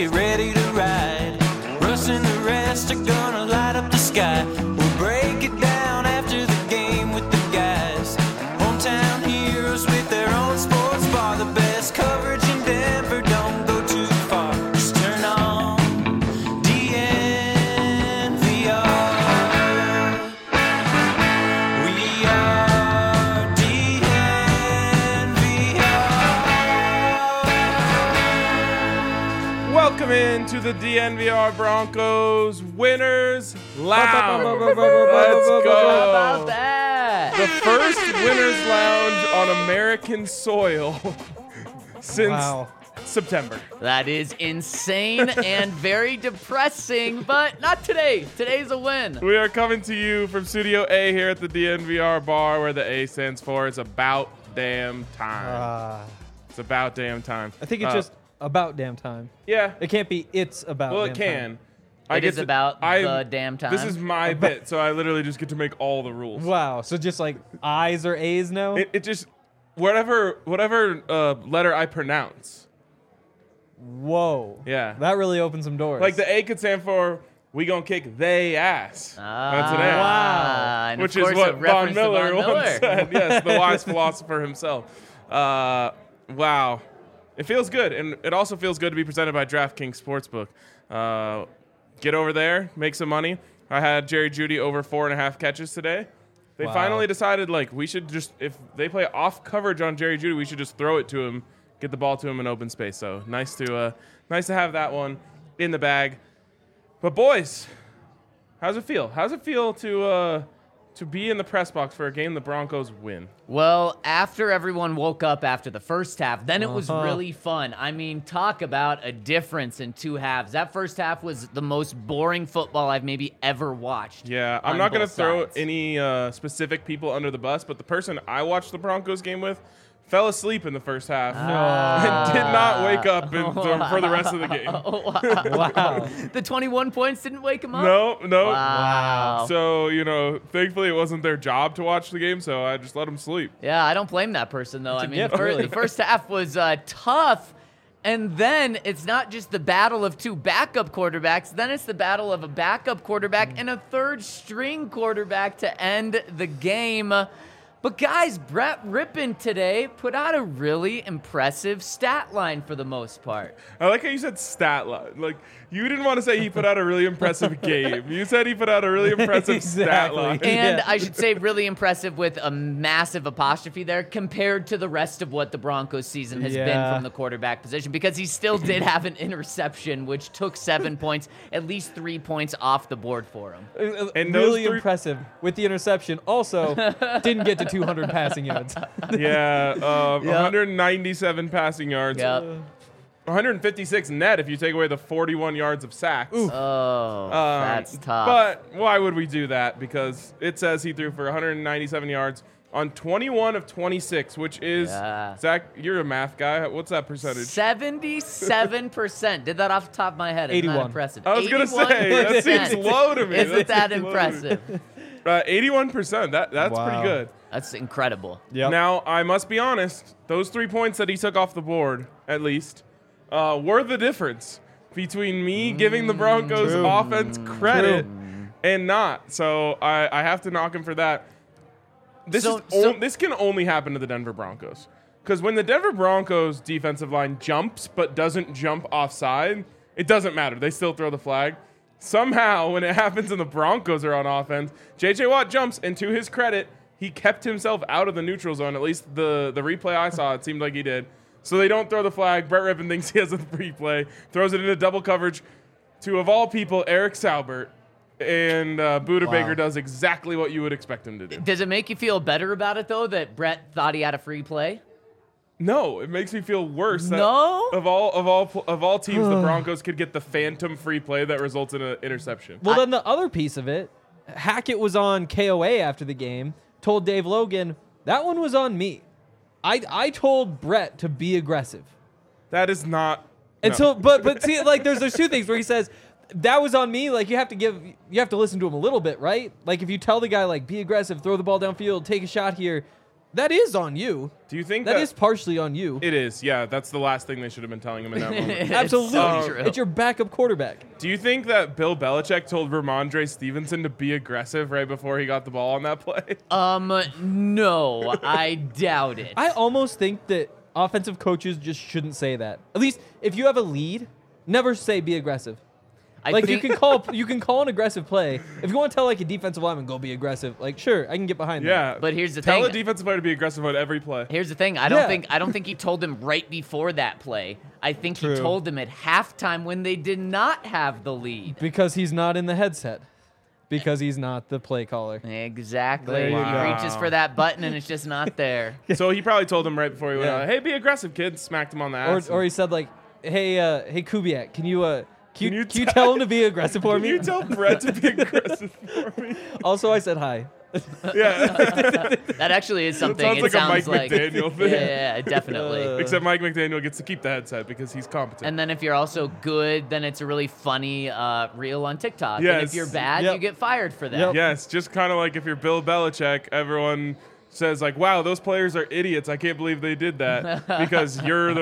get ready to ride. Russ and the rest are gonna light up the sky. We'll break it down after the game with the guys. Hometown heroes with their own sports bar. The best coverage in Denver, don't go too far. Just turn on DNVR. We are DNVR. Welcome into the DNVR Broncos Winners Lounge. Let's How go. about that? The first Winners Lounge on American soil since September. That is insane and very depressing, but not today. Today's a win. We are coming to you from Studio A here at the DNVR bar, where the A stands for It's About Damn Time. It's about damn time. I think it's just about damn time. Yeah. It can't be it's about Well, damn it can. time. It is about the damn time. This is my bit, so I literally just get to make all the rules. Wow. So just like I's or A's now? It just whatever letter I pronounce. Whoa. Yeah. That really opened some doors. Like the A could stand for we gonna kick they ass. That's an A. Wow. And Which of course is what a Von reference to Miller Von once said. Yes, the wise philosopher himself. Wow. It feels good, and it also feels good to be presented by DraftKings Sportsbook. Get over there, make some money. I had Jerry Jeudy over 4.5 catches today. They Wow. finally decided, like, we should just, if they play off coverage on Jerry Jeudy, we should just throw it to him, get the ball to him in open space. So nice to have that one in the bag. But boys, how's it feel? How's it feel to be in the press box for a game the Broncos win? Well, after everyone woke up after the first half, then it was really fun. I mean, talk about a difference in two halves. That first half was the most boring football I've maybe ever watched. Yeah, I'm on not going to both throw sides. any specific people under the bus, but the person I watched the Broncos game with fell asleep in the first half and did not wake up for the rest of the game. wow. The 21 points didn't wake him up? No. Wow. So, thankfully it wasn't their job to watch the game, so I just let them sleep. Yeah, I don't blame that person, though. I mean, gift, really. the first half was tough, and then it's not just the battle of two backup quarterbacks. Then it's the battle of a backup quarterback and a third-string quarterback to end the game. But guys, Brett Rippon today put out a really impressive stat line for the most part. I like how you said stat line. Like, you didn't want to say he put out a really impressive game. You said he put out a really impressive stat Exactly. line. And Yeah. I should say really impressive with a massive apostrophe there compared to the rest of what the Broncos season has been Yeah. from the quarterback position, because he still did have an interception, which took 7 points, at least 3 points off the board for him. And those really three- impressive with the interception. Also, didn't get to 200 passing yards. Yeah, 197 passing yards. Yep. 156 net if you take away the 41 yards of sacks. Oh, that's tough. But why would we do that? Because it says he threw for 197 yards on 21 of 26, which is, Yeah. Zach, you're a math guy. What's that percentage? 77%. Did that off the top of my head. Isn't that 81. impressive? I was going to say, that seems 81%. low to me. Isn't that seems low to me. impressive? 81%. That's Wow. pretty good. That's incredible. Yep. Now, I must be honest, those 3 points that he took off the board, at least, were the difference between me giving the Broncos offense credit and not. So I have to knock him for that. This can only happen to the Denver Broncos. Because when the Denver Broncos defensive line jumps but doesn't jump offside, it doesn't matter. They still throw the flag. Somehow, when it happens and the Broncos are on offense, J.J. Watt jumps, and to his credit, he kept himself out of the neutral zone. At least the replay I saw, it seemed like he did. So they don't throw the flag. Brett Rippon thinks he has a free play, throws it into double coverage to, of all people, Eric Saubert. And Buda Baker does exactly what you would expect him to do. Does it make you feel better about it, though, that Brett thought he had a free play? No, it makes me feel worse. That No? Of all teams, the Broncos could get the phantom free play that results in an interception. Well, then the other piece of it, Hackett was on KOA after the game, told Dave Logan, that one was on me. I told Brett to be aggressive. That is not. And no. so, but see, like, there's two things where he says, that was on me. Like, you have to listen to him a little bit, right? Like, if you tell the guy, like, be aggressive, throw the ball downfield, take a shot here, That is on you. Do you think That is partially on you. It is, yeah. That's the last thing they should have been telling him in that moment. It's Absolutely. so true. It's your backup quarterback. Do you think that Bill Belichick told Ramondre Stevenson to be aggressive right before he got the ball on that play? No, I doubt it. I almost think that offensive coaches just shouldn't say that. At least if you have a lead, never say be aggressive. Like you can call an aggressive play. If you want to tell like a defensive lineman go be aggressive, like sure, I can get behind that. Yeah. But here's the Tell thing. a defensive player to be aggressive on every play. Here's the thing. I don't think he told him right before that play. I think True. he told him at halftime when they did not have the lead. Because he's not in the headset. Because he's not the play caller. Exactly. There you He go. reaches for that button and it's just not there. So he probably told him right before he went Yeah. out, hey, be aggressive, kid. Smacked him on the ass. Or he said like, hey Kubiak, can you Can you tell him to be aggressive for Can me? you tell Brett to be aggressive for me? Also, I said hi. Yeah. That actually is something. sounds It like a sounds Mike McDaniel thing. Yeah, definitely. Except Mike McDaniel gets to keep the headset because he's competent. And then if you're also good, then it's a really funny reel on TikTok. And Yes. if you're bad, Yep. you get fired for that. Yep. yes, just kind of like if you're Bill Belichick, everyone says like, wow, those players are idiots. I can't believe they did that because you're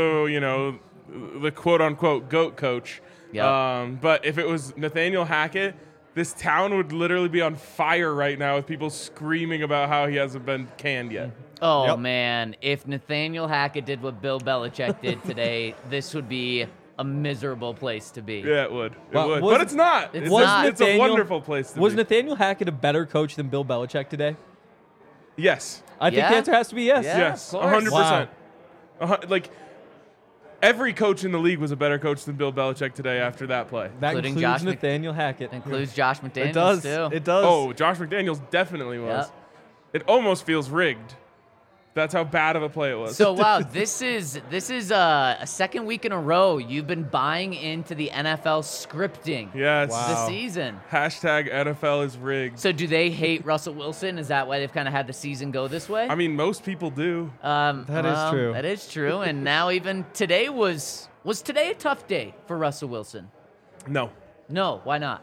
the quote unquote GOAT coach. Yep. But if it was Nathaniel Hackett, this town would literally be on fire right now with people screaming about how he hasn't been canned yet. Oh, Yep. man. If Nathaniel Hackett did what Bill Belichick did today, this would be a miserable place to be. Yeah, it would. It Well, would. was- But it's not. It's It's, not. it's a wonderful place to Was be. Nathaniel Hackett a better coach than Bill Belichick today? Yes. I think Yeah? the answer has to be yes. Yeah. Yes. of course. 100%. Like, every coach in the league was a better coach than Bill Belichick today after that play. That Including includes Josh Nathaniel Hackett. Includes Josh McDaniels, It does. too. It does. Oh, Josh McDaniels definitely was. Yep. It almost feels rigged. That's how bad of a play it was. So wow, this is a second week in a row you've been buying into the NFL scripting yes. Wow. this season. Hashtag NFL is rigged. So do they hate Russell Wilson? Is that why they've kind of had the season go this way? I mean, most people do. That is true. That is true. And now even today was today a tough day for Russell Wilson? No. No, why not?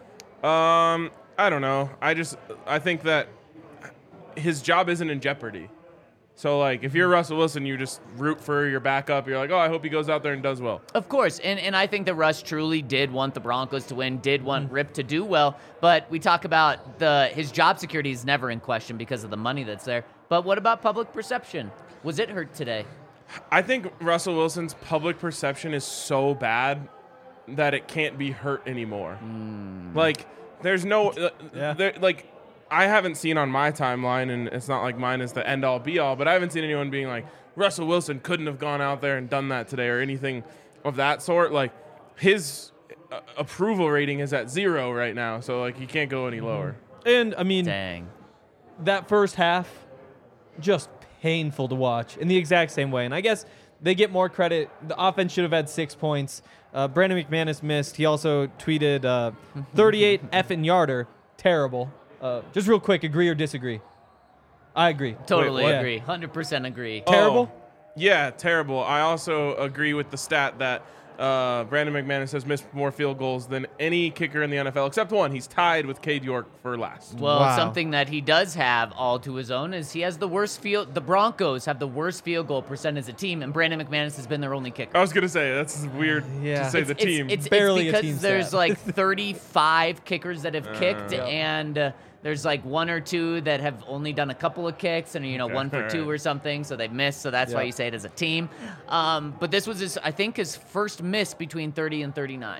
I don't know. I think that his job isn't in jeopardy. So, like, if you're Russell Wilson, you just root for your backup. You're like, oh, I hope he goes out there and does well. Of course, and I think that Russ truly did want the Broncos to win, did want Rip to do well, but we talk about his job security is never in question because of the money that's there. But what about public perception? Was it hurt today? I think Russell Wilson's public perception is so bad that it can't be hurt anymore. Like, there's no, like, I haven't seen on my timeline, and it's not like mine is the end-all, be-all, but I haven't seen anyone being like, Russell Wilson couldn't have gone out there and done that today or anything of that sort. Like, his approval rating is at 0 right now, so, like, he can't go any lower. And, I mean, Dang. that first half, just painful to watch in the exact same way. And I guess they get more credit. The offense should have had 6 points. Brandon McManus missed. He also tweeted 38 effing yarder. Terrible. Just real quick, agree or disagree? I agree. Totally what? agree. 100% agree. Terrible? Yeah, terrible. I also agree with the stat that Brandon McManus has missed more field goals than any kicker in the NFL, except one. He's tied with Cade York for last. Well, Wow. something that he does have all to his own is he has the worst field. The Broncos have the worst field goal percent as a team, and Brandon McManus has been their only kicker. I was going to say, that's weird Yeah. to say the team. It's Barely a because team there's stat. like 35 kickers that have kicked, and there's like 1 or 2 that have only done a couple of kicks, and 1 for 2 or something, so they've missed. So that's why Yeah. you say it as a team. But this was I think his first miss between 30 and 39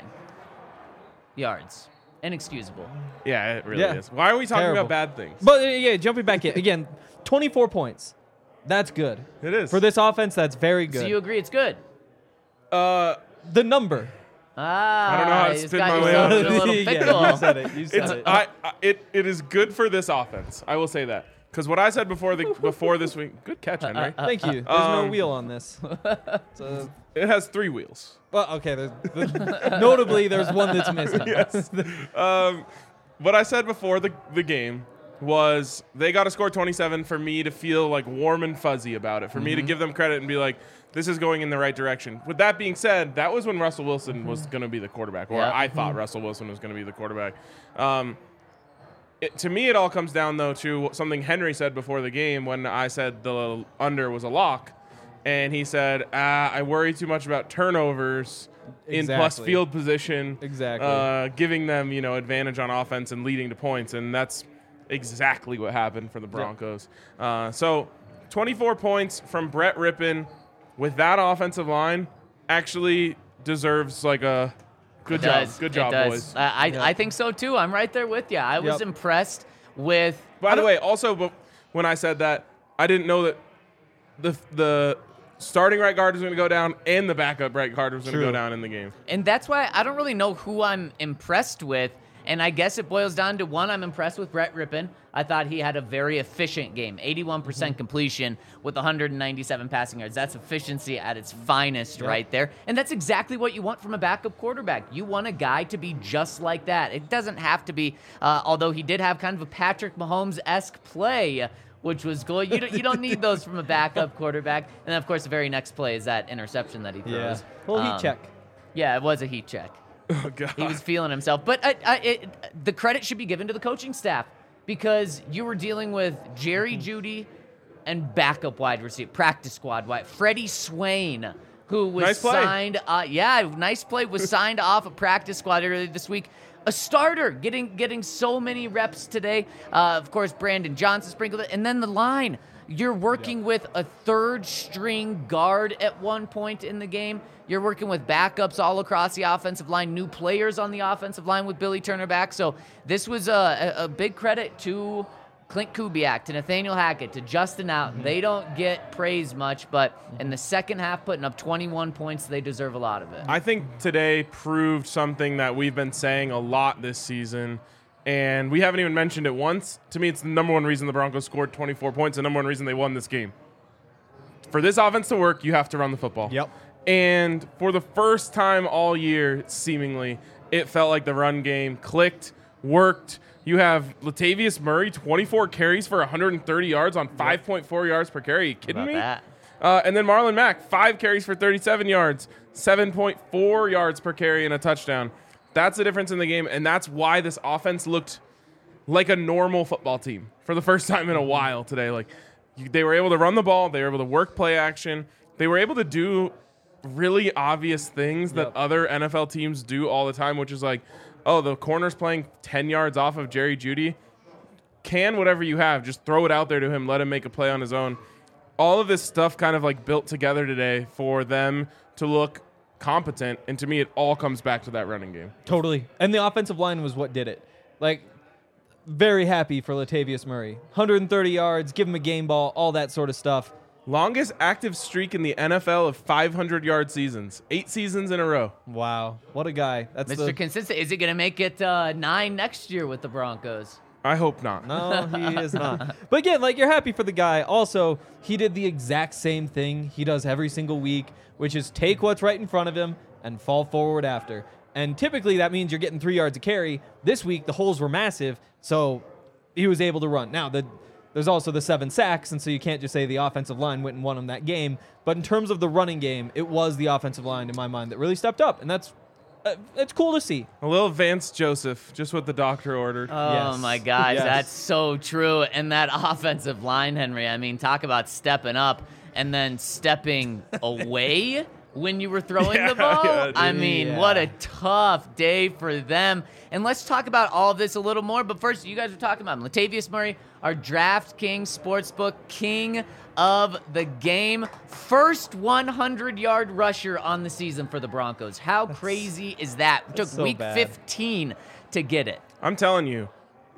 yards. Inexcusable. Yeah, it really Yeah. is. Why are we talking Terrible. about bad things? But, yeah, jumping back in. Again, 24 points. That's good. It is. For this offense, that's very good. So you agree it's good? The number. I don't know how to you just spin got my way yourself out in of a little this. pickle. Yeah, you said it. You said it. It is good for this offense. I will say that. Because what I said before this week, good catch, Henry. Thank you. There's no wheel on this. So, It has 3 wheels. well, okay. Notably, there's one that's missing. Yes. What I said before the game was they got to score 27 for me to feel like warm and fuzzy about it, for me to give them credit and be like, this is going in the right direction. With that being said, that was when Russell Wilson was going to be the quarterback, or Yep. I thought Russell Wilson was going to be the quarterback. To me, it all comes down, though, to something Henry said before the game when I said the under was a lock. And he said, I worry too much about turnovers in plus field position. Exactly. Giving them, advantage on offense and leading to points. And that's exactly what happened for the Broncos. So 24 points from Brett Rippon with that offensive line actually deserves like a good job. Good job, boys. I think so, too. I'm right there with you. I was impressed with... By the way, also, when I said that, I didn't know that the starting right guard was going to go down and the backup right guard was going to go down in the game. And that's why I don't really know who I'm impressed with. And I guess it boils down to one, I'm impressed with Brett Rippon. I thought he had a very efficient game, 81% completion with 197 passing yards. That's efficiency at its finest right there. And that's exactly what you want from a backup quarterback. You want a guy to be just like that. It doesn't have to be, although he did have kind of a Patrick Mahomes-esque play, which was cool. You don't need those from a backup quarterback. And then, of course, the very next play is that interception that he throws. Yeah. Well, heat check. Yeah, it was a heat check. Oh, God. He was feeling himself. But the credit should be given to the coaching staff because you were dealing with Jerry Jeudy and backup wide receiver, practice squad wide, Freddie Swain, who was signed. Nice play, was signed off a practice squad earlier this week. A starter getting so many reps today. Of course, Brandon Johnson sprinkled it. And then the line. You're working with a third-string guard at one point in the game. You're working with backups all across the offensive line, new players on the offensive line with Billy Turner back. So this was a big credit to Clint Kubiak, to Nathaniel Hackett, to Justin Outen. They don't get praised much, but in the second half, putting up 21 points, they deserve a lot of it. I think today proved something that we've been saying a lot this season, and we haven't even mentioned it once. To me, it's the number one reason the Broncos scored 24 points, the number one reason they won this game. For this offense to work, you have to run the football. Yep. And for the first time all year, seemingly, it felt like the run game clicked, worked. You have Latavius Murray, 24 carries for 130 yards on 5.4 yards per carry. Are you kidding me? That? And then Marlon Mack, 5 carries for 37 yards, 7.4 yards per carry and a touchdown. That's the difference in the game, and that's why this offense looked like a normal football team for the first time in a while today. Like, they were able to run the ball. They were able to work play action. They were able to do really obvious things that other NFL teams do all the time, which is like, oh, the corner's playing 10 yards off of Jerry Jeudy. Can whatever you have, just throw it out there to him, let him make a play on his own. All of this stuff kind of like built together today for them to look competent, and to me, it all comes back to that running game. Totally. And the offensive line was what did it. Like, very happy for Latavius Murray. 130 yards, give him a game ball, all that sort of stuff. Longest active streak in the NFL of 500-yard seasons. 8 seasons in a row. Wow. What a guy. That's Mr. Consistent. Is he going to make it 9 next year with the Broncos? I hope not. No, he is not. But again, like, you're happy for the guy. Also, he did the exact same thing he does every single week, which is take what's right in front of him and fall forward after. And typically that means you're getting 3 yards a carry. This week, the holes were massive, so he was able to run. Now, there's also the 7 sacks, and so you can't just say the offensive line went and won him that game. But in terms of the running game, it was the offensive line, in my mind, that really stepped up, and that's it's cool to see. A little Vance Joseph, just what the doctor ordered. Oh, Yes. my gosh, Yes. that's so true. And that offensive line, Henry, I mean, talk about stepping up and then stepping away when you were throwing the ball. Yeah, I mean, what a tough day for them. And let's talk about all of this a little more. But first, you guys were talking about Latavius Murray, our DraftKings Sportsbook king of the game. First 100-yard rusher on the season for the Broncos. How crazy is that? It took so week bad. 15 to get it. I'm telling you,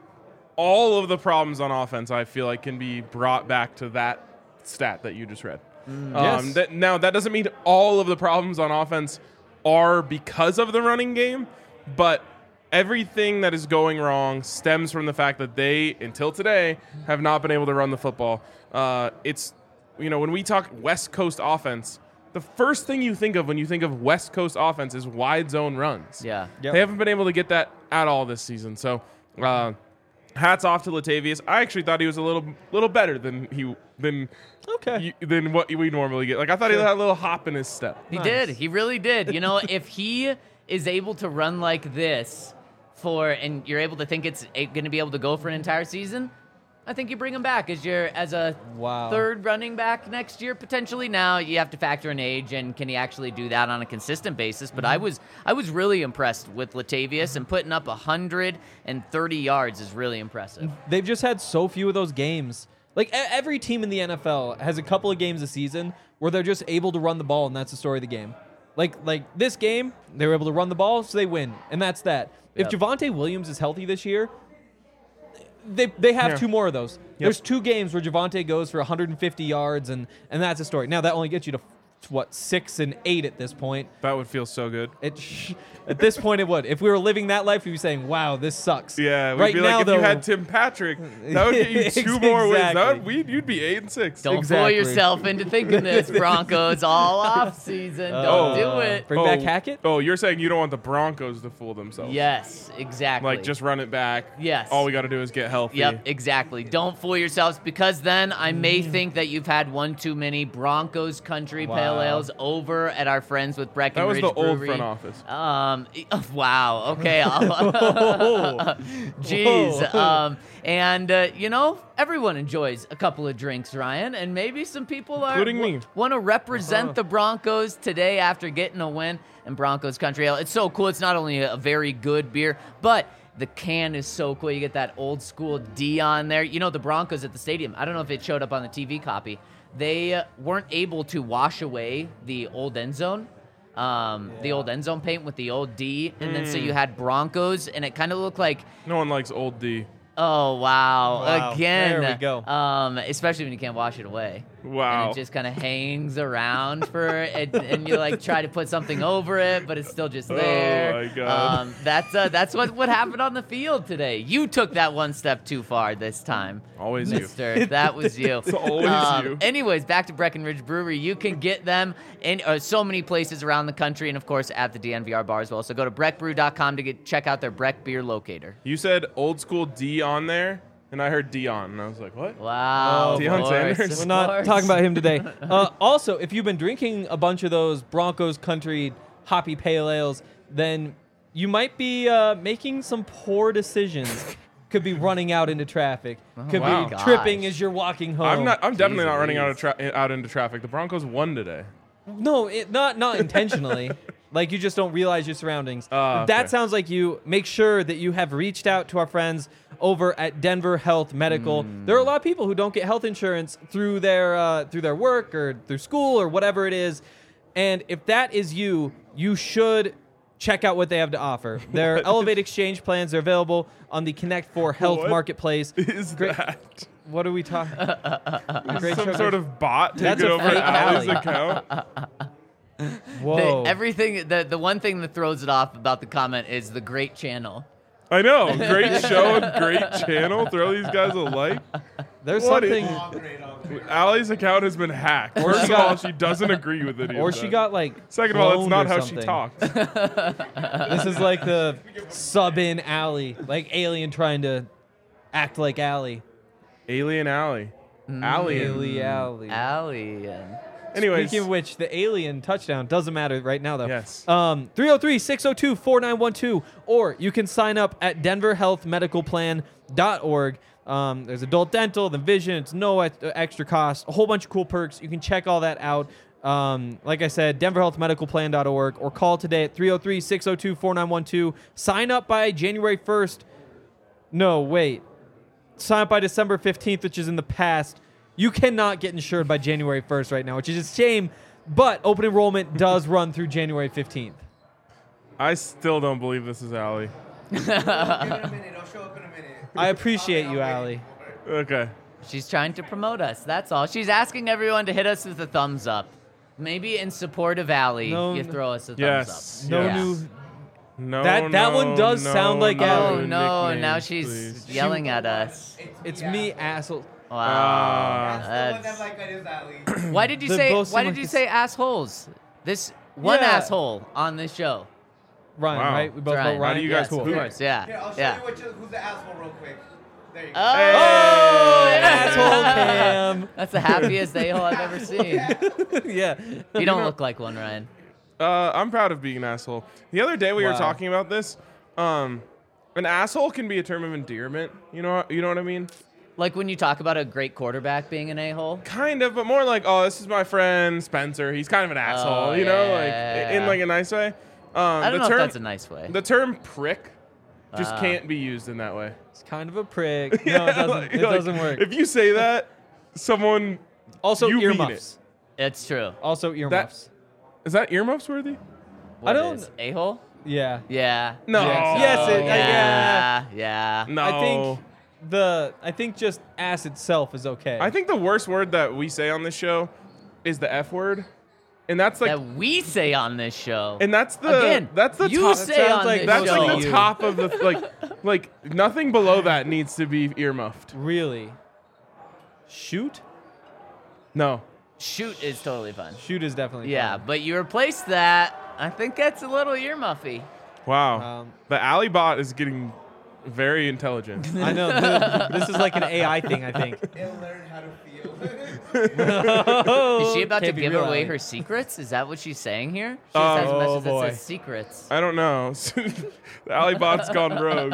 all of the problems on offense, I feel like, can be brought back to that stat that you just read. Yes. Now, that doesn't mean all of the problems on offense are because of the running game, but everything that is going wrong stems from the fact that they, until today, have not been able to run the football. It's, when we talk West Coast offense, the first thing you think of when you think of West Coast offense is wide zone runs. Yeah. Yep. They haven't been able to get that at all this season. So, hats off to Latavius. I actually thought he was a little better than what we normally get. Like, I thought he had a little hop in his step. He did. He really did. If he is able to run like this and you're able to think it's going to be able to go for an entire season, I think you bring him back as a Wow. third running back next year potentially. Now you have to factor in age and can he actually do that on a consistent basis? But I was really impressed with Latavius, and putting up 130 yards is really impressive. They've just had so few of those games. Like every team in the NFL has a couple of games a season where they're just able to run the ball, and that's the story of the game. Like this game, they were able to run the ball, so they win, and that's that. Yep. If Javonte Williams is healthy this year, they have 2 more of those. There's 2 games where Javonte goes for 150 yards, and that's a story. Now that only gets you to 6 and 8 at this point. That would feel so good. At this point, it would. If we were living that life, we'd be saying, "Wow, this sucks." Yeah, we'd right be now, like, if though, you had Tim Patrick, that would get you 2 more wins. Exactly. You'd be 8-6. Don't Exactly. fool yourself into thinking this, Broncos all off season. Don't do it. Bring back Hackett. Oh, you're saying you don't want the Broncos to fool themselves. Yes, exactly. Like, just run it back. Yes. All we got to do is get healthy. Yep, exactly. Don't fool yourselves, because then I may think that you've had one too many Broncos Country Pale Ales over at our friends with Breckenridge That was the old Brewery. front office. Wow. Okay. Jeez. Everyone enjoys a couple of drinks, Ryan, and maybe some people Including me. want to represent the Broncos today after getting a win in Broncos Country Ale. It's so cool. It's not only a very good beer, but the can is so cool. You get that old school D on there. You know, the Broncos at the stadium, I don't know if it showed up on the TV copy, they weren't able to wash away the old end zone. The old end zone paint with the old D, and then so you had Broncos, and it kind of looked like, No one likes old D. oh wow, again, there we go. Especially when you can't wash it away. Wow. And it just kind of hangs around for it, and you like try to put something over it, but it's still just there. Oh my God. That's what happened on the field today. You took that one step too far this time. Always you. Mister. That was you. It's always you. Anyways, back to Breckenridge Brewery. You can get them in so many places around the country, and of course at the DNVR bar as well. So go to breckbrew.com to check out their Breck beer locator. You said old school D on there, and I heard Dion, and I was like, what? Wow. of Deion course, Sanders? of We're not course. talking about him today. Also, if you've been drinking a bunch of those Broncos Country hoppy pale ales, then you might be making some poor decisions. Could be running out into traffic. Could wow. be Gosh. tripping as you're walking home. I'm definitely not Jeez running Louise. out into traffic. The Broncos won today. No, not intentionally. Like, you just don't realize your surroundings. Okay. That sounds like you. Make sure that you have reached out to our friends over at Denver Health Medical. There are a lot of people who don't get health insurance through their work or through school or whatever it is. And if that is you, you should check out what they have to offer. Their Elevate Exchange plans are available on the Connect 4 Health What Marketplace. Is Great- that What are we talking? some sort of bot That's taking a over fake Allie's Allie. account? Whoa. The one thing that throws it off about the comment is the great channel. I know. Great show and great channel. Throw these guys a like. There's What something. Allie's account has been hacked. Or First she of all, got- she doesn't agree with it. Or she got like. Second of all, that's cloned not or how something. she talks. This is like the sub-in Allie, like Alien trying to act like Allie. Alien Allie. Alien. Allie. Alien. Anyways, Speaking of which, the Alien touchdown doesn't matter right now, though. Yes. 303-602-4912, or you can sign up at denverhealthmedicalplan.org. There's adult dental, the vision. It's no extra cost. A whole bunch of cool perks. You can check all that out. Like I said, denverhealthmedicalplan.org, or call today at 303-602-4912. Sign up by January 1st. No, wait. Sign up by December 15th, which is in the past. You cannot get insured by January 1st right now, which is a shame, but open enrollment does run through January 15th. I still don't believe this is Allie. Give it a minute. I'll show up in a minute. I appreciate you, Allie. Okay. She's trying to promote us. That's all. She's asking everyone to hit us with a thumbs up. Maybe in support of Allie, No, you throw us a thumbs Yes. up. No Yeah. new. No, That one does sound like Allie. Oh no! nicknames, Now she's please. yelling at us. It's me, asshole. Wow. That's the one that That's- like that is Ali. Why did you They say? both Why seem did like you this- say assholes? This one Yeah. asshole on this show. Ryan, Wow. right? We both Ryan. vote Ryan. How do you guys Yes, of poop? course. Yeah. Here, I'll show Yeah. you who's the asshole real quick. There you go. Oh, Asshole Cam. That's the happiest a-hole I've ever seen. Yeah. You don't look like one, Ryan. I'm proud of being an asshole. The other day we were Wow. talking about this. An asshole can be a term of endearment. You know what I mean? Like when you talk about a great quarterback being an a-hole. Kind of, but more like, oh, this is my friend Spencer. He's kind of an asshole, you know, like in like a nice way. I don't know if that's a nice way. The term prick just can't be used in that way. It's kind of a prick. No, it doesn't. It doesn't work. If you say that, someone Also, you mean earmuffs. It's true. Also, earmuffs. is that earmuffs worthy? What don't- is a-hole? Yeah. Yeah. No. Yes, it- Yeah. No. I think just ass itself is okay. I think the worst word that we say on this show is the F word, and that's like, That we say on this show. and that's the Again, that's the you top. say sounds on like this That's show. like the You. top of the like nothing below that needs to be earmuffed. Really. Shoot. No. Shoot is totally fun. Shoot is definitely. Yeah, fun. but you replace that. I think that's a little earmuffy. Wow. The alley bot is getting very intelligent. I know. This is like an AI thing. I think. It'll learn how to feel. Is she about to Can't be give real away AI. her secrets? Is that what she's saying here? She just has a message boy. that says secrets. I don't know. The alley bot's gone rogue.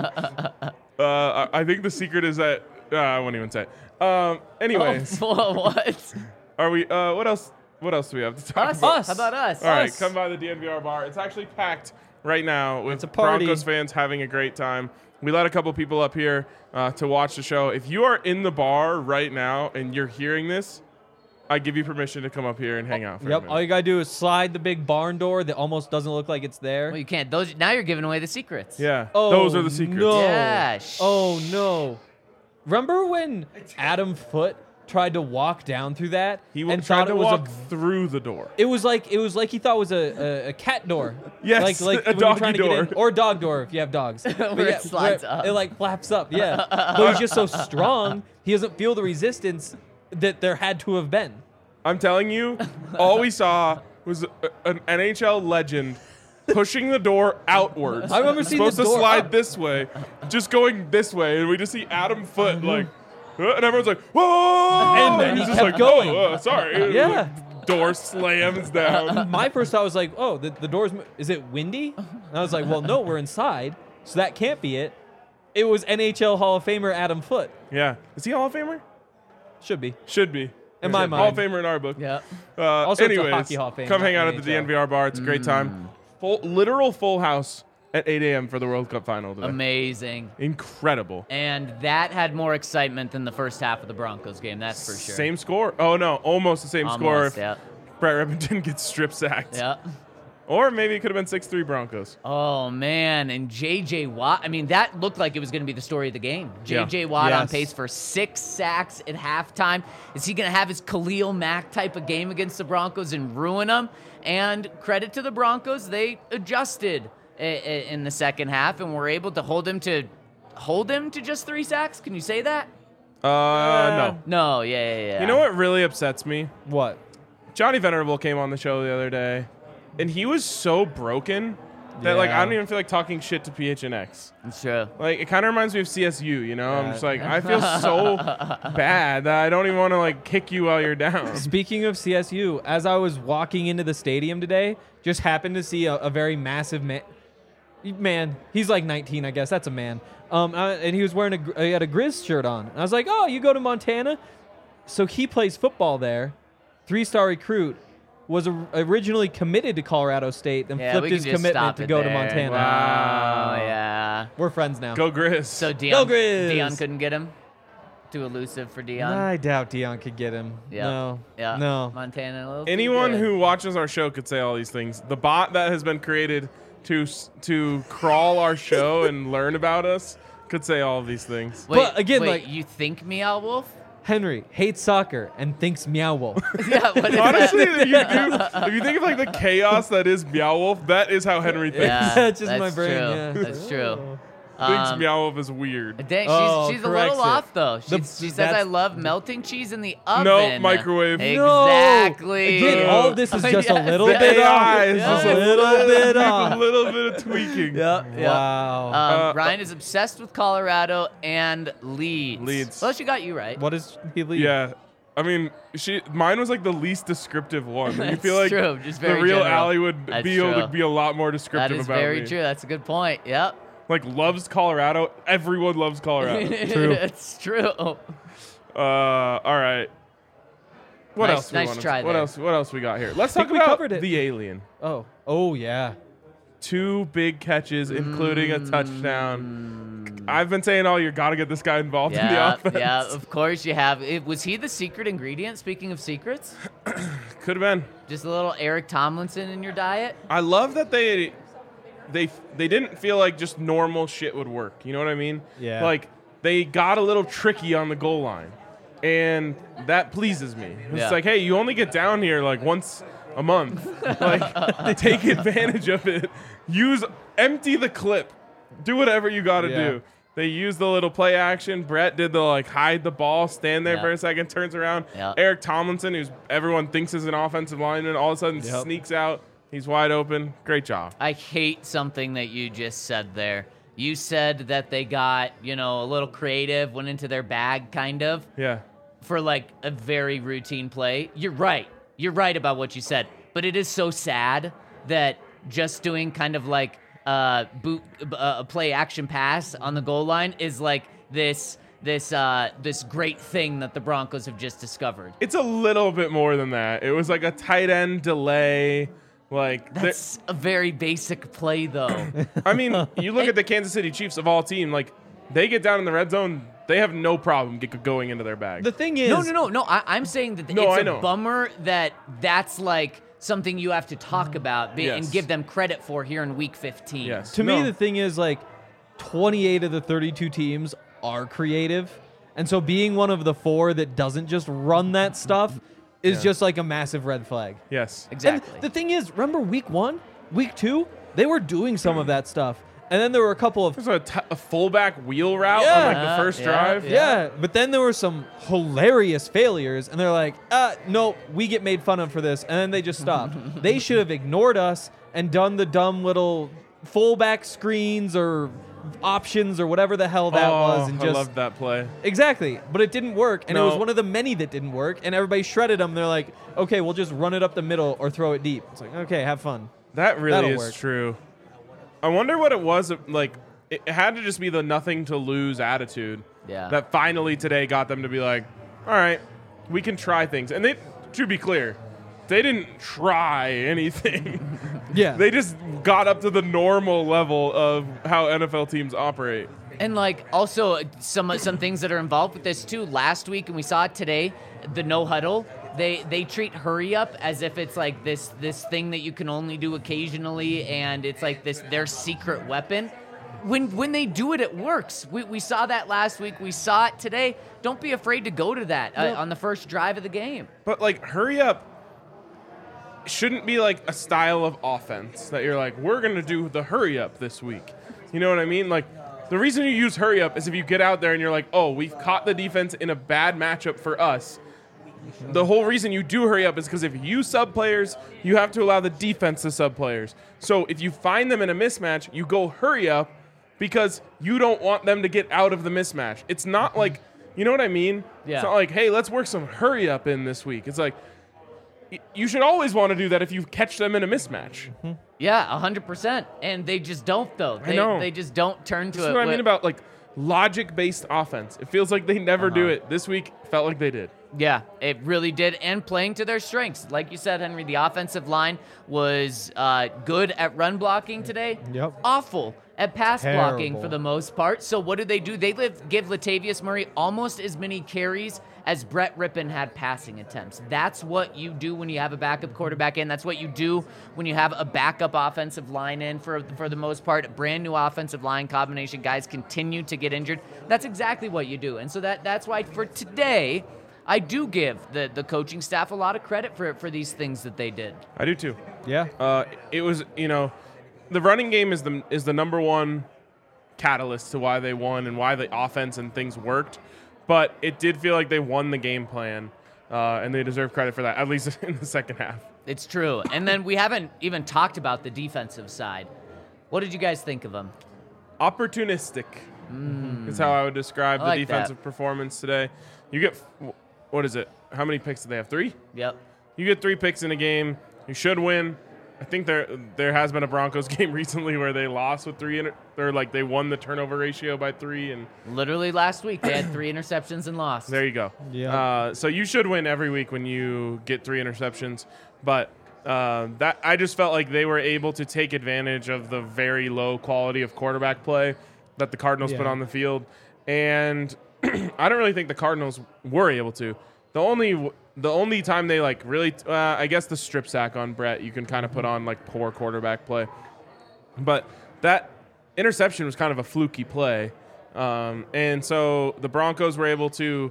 I think the secret is that I won't even say it. Anyways, What? are we? What else? What else do we have to talk Us. about? How about us? All right, Us. come by the DNVR bar. It's actually packed right now with It's a party. Broncos fans having a great time. We let a couple people up here to watch the show. If you are in the bar right now and you're hearing this, I give you permission to come up here and hang out for a Yep. minute. All you gotta do is slide the big barn door that almost doesn't look like it's there. Well, you can't. Those now you're giving away the secrets. Yeah, Oh, those are the secrets. No. Yeah, Oh no. Remember when Adam Foote tried to walk down through that He and tried thought to it was walk a through the door. It was like he thought it was a cat door. Yes, like a when you're trying doggy to get in, door. or a dog door if you have dogs. But Where it slides where up. It like flaps up. Yeah, but he's just so strong. He doesn't feel the resistance that there had to have been. I'm telling you, all we saw was an NHL legend pushing the door outwards. I remember seeing supposed the to door slide up. this way, just going this way, and we just see Adam Foote like, and everyone's like, "Whoa!" And then he's he just kept like, going. "Oh, sorry." Yeah. Door slams down. My first thought was like, oh, the door's. Is it windy? And I was like, well, no, we're inside, so that can't be it. It was NHL Hall of Famer Adam Foote. Yeah, is he a Hall of Famer? Should be. Should be. In my Hall of mind. Famer in our book. Yeah. Also, it's a anyways, Hockey Hall of Fame, come not hang out at the NHL. DNVR bar. It's a great time. Literal full house at 8 a.m. for the World Cup final today. Amazing. Incredible. And that had more excitement than the first half of the Broncos game. That's for sure. Same score. Oh no, almost the same score. Almost, If yeah. Brett Rippon didn't get strip sacked. Yeah. Or maybe it could have been 6-3 Broncos. Oh man, and J.J. Watt. I mean, that looked like it was going to be the story of the game. Yeah. J.J. Watt on Yes. pace for 6 sacks at halftime. Is he going to have his Khalil Mack type of game against the Broncos and ruin them? And credit to the Broncos, they adjusted in the second half and were able to hold him to just 3 sacks. Can you say that? No. No. Yeah. You know what really upsets me? What? Johnny Venerable came on the show the other day, and he was so broken that like Yeah. I don't even feel like talking shit to PHNX. It's true. Like it kind of reminds me of CSU, you know? I'm Yeah. just like I feel so bad that I don't even want to like kick you while you're down. Speaking of CSU, as I was walking into the stadium today, just happened to see a very massive man. He's like 19, I guess. That's a man. And he was wearing he had a Grizz shirt on. And I was like, oh, you go to Montana? So he plays football there. 3-star recruit. Was originally committed to Colorado State, then Yeah, flipped we can his just commitment stop to it go to there. Montana. Wow. Oh, yeah. We're friends now. Go Grizz. So Go Grizz! Dion couldn't get him? Too elusive for Dion? I doubt Dion could get him. Yep. No. Yeah. No. Montana. A little too Anyone good. who watches our show could say all these things. The bot that has been created to crawl our show and learn about us could say all of these things. Wait, But again, wait, like- you think Meow Wolf? Henry hates soccer and thinks Meow Wolf. Yeah. What is Honestly, that? if you think of like the chaos that is Meow Wolf, that is how Henry thinks. Yeah, That's just my that's brain, True. yeah. That's true. Thinks Meow Wolf is weird. Dang, Oh, she's a corrects little it. off though. The- She says that's- I love melting cheese in the oven. No, microwave. No. Exactly. Again, all of this is just a Yes, little yes. bit off. AI is Yeah. just A little bit a off. little bit of tweaking. Yep. Wow. Ryan is obsessed with Colorado and Leeds. Leeds. Well, she got you right. What does he leave? Yeah. I mean, mine was like the least descriptive one. You That's feel like true, just the very real general. Allie would That's be able true. to be a lot more That descriptive is about very me. true. That's a good point. Yep. like loves Colorado. Everyone loves Colorado. True. It's true. All right. What Nice- else? nice try What there. else? What else we got here? Let's talk we about covered it. the alien. Oh yeah. 2 big catches, including a touchdown. I've been saying, you got to get this guy involved in the Yeah, offense. yeah, of course you have. Was he the secret ingredient, speaking of secrets? Could have been. Just a little Eric Tomlinson in your diet? I love that they didn't feel like just normal shit would work. You know what I mean? Yeah. Like they got a little tricky on the goal line, and that pleases me. It's Yeah. like, hey, you only get down here like once a month. Like, take advantage of it. Empty the clip. Do whatever you got to Yeah. do. They used the little play action. Brett did the hide the ball, stand there Yeah. for a second, turns around. Yeah. Eric Tomlinson, who's everyone thinks is an offensive lineman, all of a sudden Yep. sneaks out. He's wide open. Great job. I hate something that you just said there. You said that they got, a little creative, went into their bag kind of Yeah. for like a very routine play. You're right. You're right about what you said. But it is so sad that just doing kind of like a play action pass on the goal line is like this great thing that the Broncos have just discovered. It's a little bit more than that. It was like a tight end delay. Like That's a very basic play, though. I mean, you look at the Kansas City Chiefs of all team, like they get down in the red zone, they have no problem going into their bag. The thing is, No. I'm saying that No, I it's know. a bummer that's like something you have to talk about Yes. and give them credit for here in Week 15. Yes. To me, No. the thing is, like, 28 of the 32 teams are creative. And so being one of the 4 that doesn't just run that stuff is just like a massive red flag. Yes. Exactly. And the thing is, remember week 1, week 2, they were doing some of that stuff. And then there were a couple of There's a fullback wheel route on Yeah. like the first Yeah, drive. yeah, but then there were some hilarious failures, and they're like, no, we get made fun of for this, and then they just stopped. They should have ignored us and done the dumb little fullback screens or options or whatever the hell that was, and I just loved that play. exactly. But it didn't work, and it was No. one of the many that didn't work, and everybody shredded them. They're like, okay, we'll just run it up the middle or throw it deep. It's like, okay, have fun. That really That'll is work. true. I wonder what it was like. It had to just be the nothing to lose attitude. Yeah. That finally today got them to be like, all right, we can try things. And they, to be clear, they didn't try anything. Yeah, They just got up to the normal level of how NFL teams operate. And like also some things that are involved with this too. Last week, and we saw it today, the no huddle. They treat hurry up as if it's like this thing that you can only do occasionally, and it's like their secret weapon. When they do it, it works. We saw that last week. We saw it today. Don't be afraid to go to that on the first drive of the game. But like, hurry up shouldn't be like a style of offense that you're like, we're going to do the hurry up this week. You know what I mean? Like, the reason you use hurry up is if you get out there and you're like, oh, we've caught the defense in a bad matchup for us. The whole reason you do hurry up is because if you sub players, you have to allow the defense to sub players. So if you find them in a mismatch, you go hurry up because you don't want them to get out of the mismatch. It's not like, you know what I mean? Yeah. It's not like, hey, let's work some hurry up in this week. It's like, you should always want to do that if you catch them in a mismatch. Yeah, 100%. And they just don't though. I know. They just don't turn to That's it. what I mean about like logic-based offense. It feels like they never do it. This week felt like they did. Yeah, it really did, and playing to their strengths. Like you said, Henry, the offensive line was good at run blocking today. Yep. Awful at pass blocking Terrible. for the most part. So what do? They give Latavius Murray almost as many carries as Brett Rippon had passing attempts. That's what you do when you have a backup quarterback in. That's what you do when you have a backup offensive line in for the most part. A brand new offensive line combination. Guys continue to get injured. That's exactly what you do. And so that's why for today, I do give the coaching staff a lot of credit for these things that they did. I do too. yeah. It was, the running game is the number one catalyst to why they won and why the offense and things worked. But it did feel like they won the game plan, and they deserve credit for that, at least in the second half. It's true. And then we haven't even talked about the defensive side. What did you guys think of them? Opportunistic is how I would describe I the like defensive performance today. You get, what is it? How many picks do they have? 3? Yep. You get 3 picks in a game. You should win. I think there has been a Broncos game recently where they lost with they won the turnover ratio by 3, and Literally last week, they had 3 interceptions and lost. there you go. Yeah. So you should win every week when you get 3 interceptions, but that I just felt like they were able to take advantage of the very low quality of quarterback play that the Cardinals put on the field, and I don't really think the Cardinals were able to. The only time they like really, I guess the strip sack on Brett, you can kind of put on like poor quarterback play, but that interception was kind of a fluky play, and so the Broncos were able to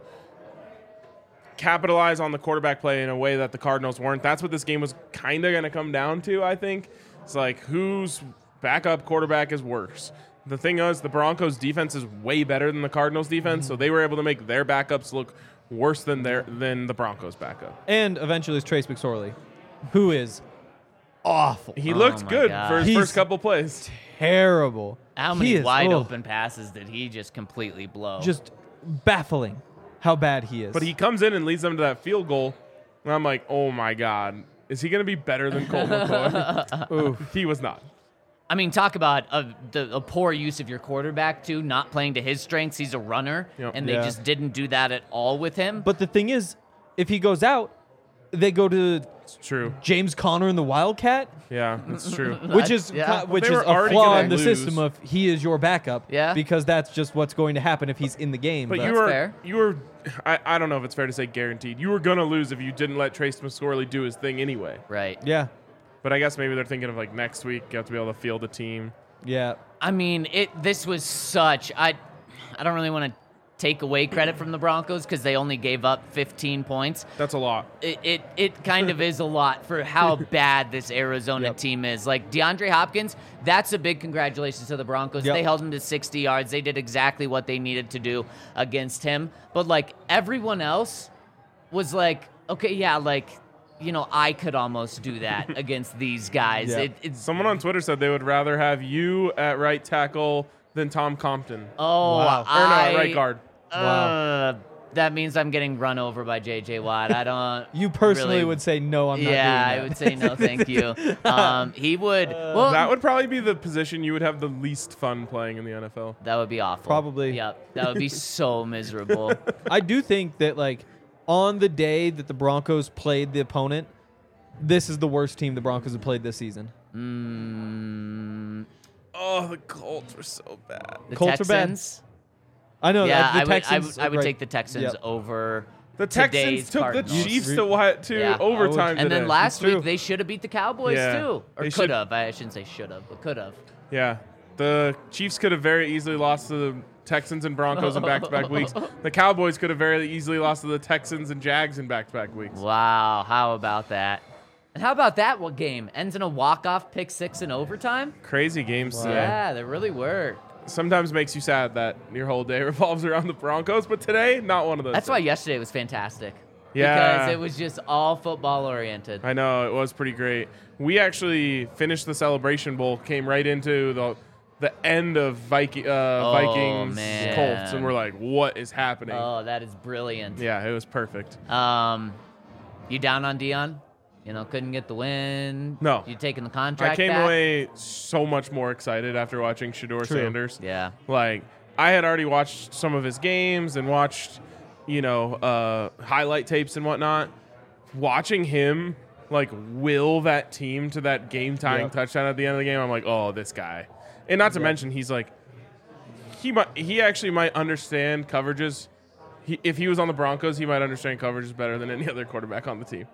capitalize on the quarterback play in a way that the Cardinals weren't. That's what this game was kind of going to come down to, I think. It's like whose backup quarterback is worse. The thing is, the Broncos defense is way better than the Cardinals defense, so they were able to make their backups look worse than the Broncos backup. And eventually it's Trace McSorley, who is awful. He looked my good God. for his He's first couple plays. Terrible. How He many is- wide oh, open passes did he just completely blow? Just baffling how bad he is. But he comes in and leads them to that field goal, and I'm like, oh my God, is he going to be better than Colt McCoy? Oof. He was not. I mean, talk about a poor use of your quarterback, too, not playing to his strengths. He's a runner, Yep. and they Yeah. just didn't do that at all with him. But the thing is, if he goes out, they go to It's true. James Conner and the Wildcat, Yeah, it's true. which is Yeah. which They is were a already flaw gonna in the lose. system of he is your backup. Yeah. Because that's just what's going to happen if he's in the game. But That's you were, fair. I don't know if it's fair to say guaranteed. You were going to lose if you didn't let Trace McSorley do his thing anyway. Right. yeah, But I guess maybe they're thinking of like next week, you have to be able to field a team. yeah. I mean, this was such. I don't really want to take away credit from the Broncos because they only gave up 15 points. That's a lot. It kind of is a lot for how bad this Arizona Yep. team is. Like DeAndre Hopkins, that's a big congratulations to the Broncos. Yep. They held him to 60 yards. They did exactly what they needed to do against him. But like everyone else was like, okay, yeah, like, you know, I could almost do that against these guys. Yeah. It's Someone on Twitter said they would rather have you at right tackle than Tom Compton. oh, Wow. Or no, at right guard. Wow. That means I'm getting run over by J.J. Watt. I don't. You personally really- would say no. I'm not Yeah, I doing would say no, thank you. He would. Well, That would probably be the position you would have the least fun playing in the NFL. that would be awful. Probably. Yep. That would be so miserable. I do think that like on the day that the Broncos played the opponent, this is the worst team the Broncos have played this season. Oh, the Colts were so bad. The Colts are bad. Texans. I know. Yeah, the I would. Texans, I would right. take the Texans Yep. over. The today's Texans took Cardinals. the Chiefs Re- to Yeah. overtime And today. then last true. week they should have beat the Cowboys Yeah. too, or They could should- have. I shouldn't say should have, but could have. Yeah, the Chiefs could have very easily lost to the Texans and Broncos in back-to-back weeks. The Cowboys could have very easily lost to the Texans and Jags in back-to-back weeks. Wow, how about that? And how about that? What game ends in a walk-off pick six in overtime? Crazy games today. Yeah, they really were. Sometimes makes you sad that your whole day revolves around the Broncos, but today, not one of those. That's why days. yesterday was fantastic. Yeah. Because it was just all football oriented. I know, it was pretty great. We actually finished the Celebration Bowl, came right into the end of Vikings man. Colts, and we're like, what is happening? Oh, that is brilliant. Yeah, it was perfect. You down on Dion? You know, couldn't get the win. No. You taking the contract I came back? away so much more excited after watching Shedeur True. Sanders. Yeah. Like, I had already watched some of his games and watched, highlight tapes and whatnot. Watching him, like, will that team to that game-tying Yep. touchdown at the end of the game, I'm like, oh, this guy. And not to mention, he's like, he actually might understand coverages. If he was on the Broncos, he might understand coverages better than any other quarterback on the team.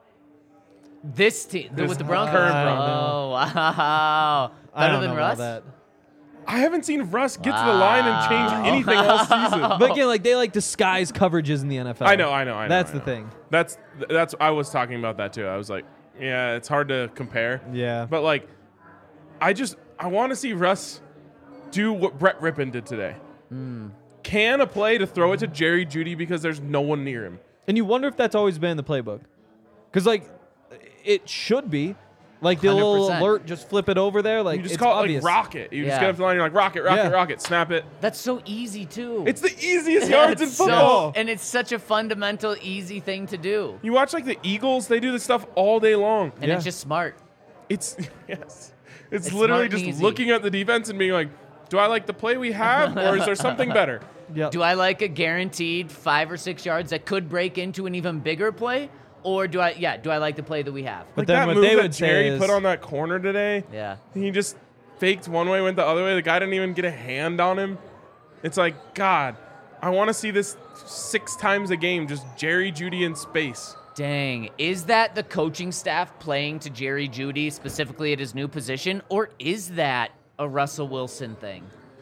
This team This with the Broncos. current Oh, wow. I Better don't than know Russ? about that. I haven't seen Russ get to the line and change anything all season. But again, like they like disguise coverages in the NFL. I know. That's I the know. thing. That's I was talking about that too. I was like, yeah, it's hard to compare. Yeah. But like, I want to see Russ do what Brett Rippon did today. Can a play to throw it to Jerry Jeudy because there's no one near him. And you wonder if that's always been in the playbook. Because, like, it should be. Like, the little 100%. alert, just flip it over there. Like, You just it's call obvious. it like rocket. You just Yeah. get up to the line, you're like, rocket, Yeah. rocket, snap it. That's so easy, too. It's the easiest yards in It's football. and it's such a fundamental, easy thing to do. You watch like the Eagles, they do this stuff all day long. And Yeah. it's just smart. It's It's literally smart and just easy. looking at the defense and being like, do I like the play we have, or is there something better? Yep. Do I like a guaranteed 5 or 6 yards that could break into an even bigger play? Or do I like the play that we have? But Like then that what move they that would say Jerry is- put on that corner today, Yeah. he just faked one way, went the other way. The guy didn't even get a hand on him. It's like, God, I want to see this 6 times a game, just Jerry Jeudy in space. Dang. Is that the coaching staff playing to Jerry Jeudy specifically at his new position? Or is that a Russell Wilson thing?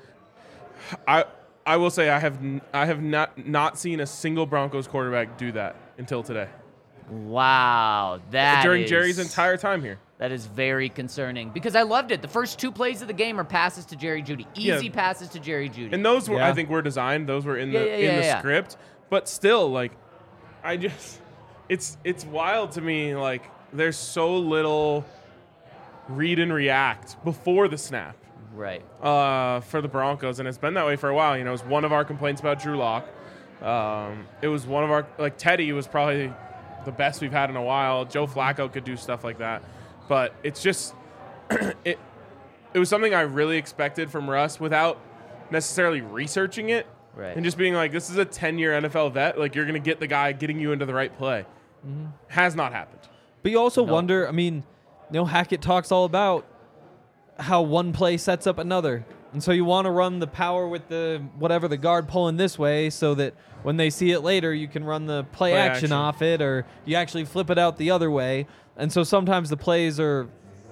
I will say I have not seen a single Broncos quarterback do that until today. Wow. During Jerry's entire time here. That is very concerning because I loved it. The first 2 plays of the game are passes to Jerry Jeudy. Easy Yeah. passes to Jerry Jeudy. And those were, Yeah. I think, were designed. Those were in the Yeah. script. But still, like, it's wild to me. Like, there's so little read and react before the snap Right. for the Broncos, and it's been that way for a while. You know, it was one of our complaints about Drew Lock. It was one of our, like, Teddy was probably the best we've had in a while. Joe Flacco could do stuff like that, but it's just it was something I really expected from Russ without necessarily researching it. Right. And just being like, this is a 10-year NFL vet. Like, you're going to get the guy getting you into the right play. Has not happened. But you also No. wonder, I mean, Hackett talks all about how one play sets up another. And so you want to run the power with the guard pulling this way so that when they see it later, you can run the play action off it, or you actually flip it out the other way. And so sometimes the plays are,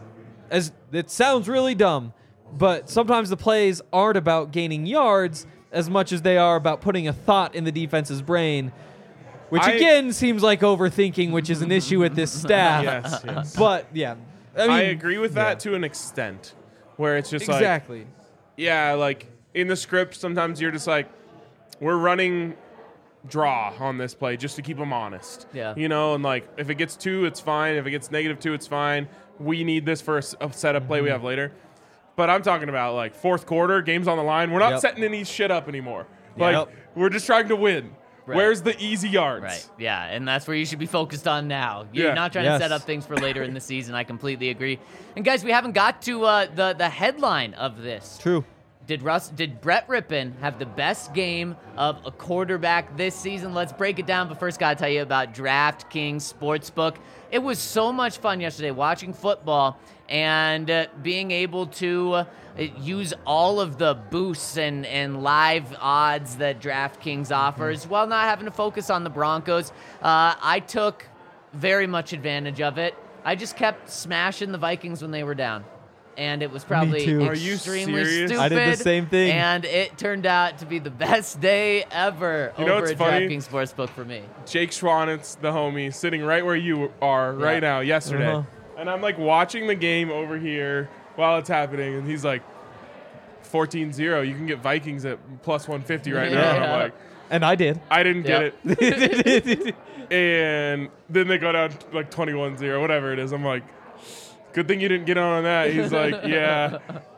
it sounds really dumb, but sometimes the plays aren't about gaining yards as much as they are about putting a thought in the defense's brain, which again seems like overthinking, which is an issue with this staff. Yes. But yeah, I agree with that to an extent, where it's just like, exactly. yeah, like in the script, sometimes you're just like, we're running draw on this play just to keep them honest. Yeah. You know, and like if it gets 2, it's fine. If it gets -2, it's fine. We need this for a setup play we have later. But I'm talking about like fourth quarter, games on the line. We're not Yep. setting any shit up anymore. Like Yep. we're just trying to win. Right. Where's the easy yards? Right. Yeah, and that's where you should be focused on now. You're Yeah. not trying Yes. to set up things for later in the season. I completely agree. And guys, we haven't got to the headline of this. True. Did Brett Rippon have the best game of a quarterback this season? Let's break it down. But first, gotta tell you about DraftKings Sportsbook. It was so much fun yesterday watching football and being able to use all of the boosts and live odds that DraftKings offers while not having to focus on the Broncos. I took very much advantage of it. I just kept smashing the Vikings when they were down. And it was probably too. Are you extremely serious? stupid. I did the same thing. And it turned out to be the best day ever You know over what's at funny? DraftKings Sportsbook for me. Jake Schwanitz, the homie, sitting right where you are right now, yesterday. Uh-huh. And I'm like watching the game over here while it's happening, and he's like, 14-0. You can get Vikings at plus 150 right now. And Yeah. I'm like, And I did. I didn't get Yep. it. And then they go down like 21-0, whatever it is. I'm like, good thing you didn't get on that. He's like, yeah,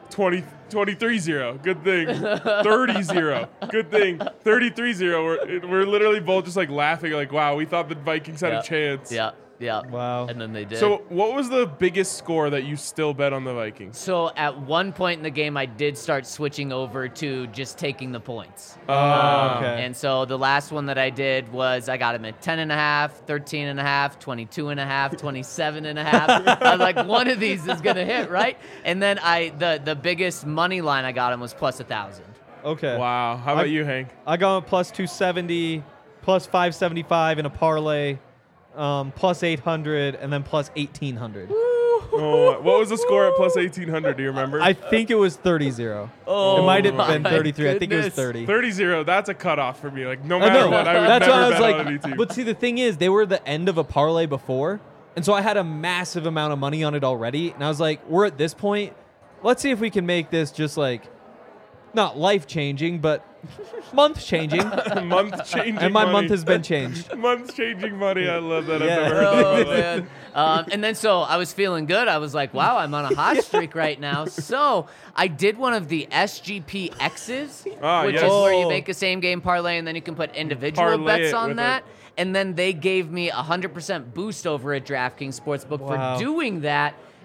23-0. Good thing. 30-0. Good thing. 33-0. We're literally both just like laughing, like, wow, we thought the Vikings had Yep. a chance. Yeah, yeah. Wow. And then they did. So what was the biggest score that you still bet on the Vikings? So at one point in the game, I did start switching over to just taking the points. Okay. And so the last one that I did was I got him at 10.5, 13.5, 22.5, 27.5. I was like, one of these is gonna hit, right? And then the biggest money line I got him was plus 1,000. Okay. Wow. How about you, Hank? I got plus 270, plus 575 in a parlay, plus 800, and then plus 1,800. Oh, what was the score at plus 1,800? Do you remember? I think it was 30-0. Oh, It might have been my 33. I think it was goodness. 30. 30-0. That's a cutoff for me. Like, no I matter know. what, I would That's never why I was bet like, on any team. but see, the thing is, they were the end of a parlay before, and so I had a massive amount of money on it already, and I was like, we're at this point. Let's see if we can make this just like, not life-changing, but month-changing. month changing And my money. month has been changed. Month changing money. I love that. Yeah. I've never heard Oh, that. man. And then so I was feeling good. I was like, wow, I'm on a hot streak right now. So I did one of the SGP X's, Ah, which yes. is where you Oh. make a same game parlay and then you can put individual Parlay bets it on with that. And then they gave me 100% boost over at DraftKings Sportsbook Wow. for doing that.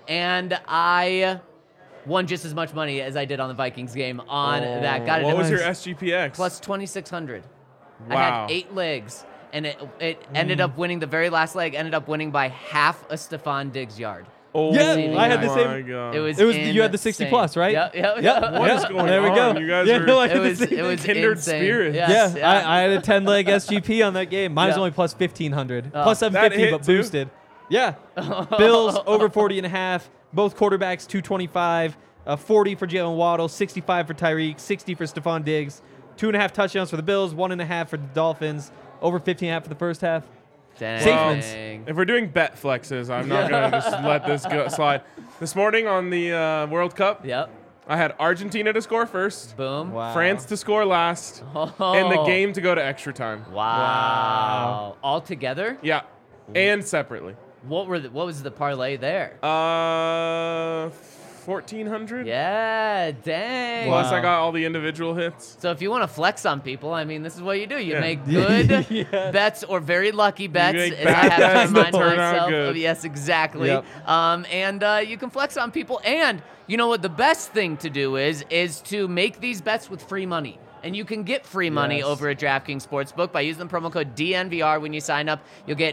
And I won just as much money as I did on the Vikings game on that. Got it. What at was your SGPX? plus 2,600. I Wow. had 8 legs, and it ended up winning. The very last leg ended up winning by half a Stephon Diggs yard. Oh, Yeah, I had the my same- God. It was you had the 60 insane. plus, right? Yep. What is going there we go. on? You guys yeah, are- no, I It had the was same it was Kindred insane. spirits. Yes, I had a 10-leg SGP on that game. Mine was Yeah. only plus 1,500. Oh. Plus That 750, hit but too? boosted. Yeah. Bills over 40.5. Both quarterbacks 225. 40 for Jalen Waddle, 65 for Tyreek, 60 for Stephon Diggs. 2.5 touchdowns for the Bills, 1.5 for the Dolphins. Over 15.5 for the first half. Dang. If we're doing bet flexes, I'm not going to just let this go slide. This morning on the World Cup, Yep. I had Argentina to score first, Boom. Wow. France to score last, Oh. and the game to go to extra time. Wow. All together? Yeah, and separately. What was the parlay there? 1,400. Yeah, dang. Plus, I Wow. got all the individual hits. So if you want to flex on people, I mean, this is what you do. You Yeah. make good Yes. bets or very lucky bets. make as bad I have to bets that remind turn out myself good. of. Yes, exactly. Yep. And you can flex on people. And you know what? The best thing to do is to make these bets with free money. And you can get free money Yes. over at DraftKings Sportsbook by using the promo code DNVR when you sign up. You'll get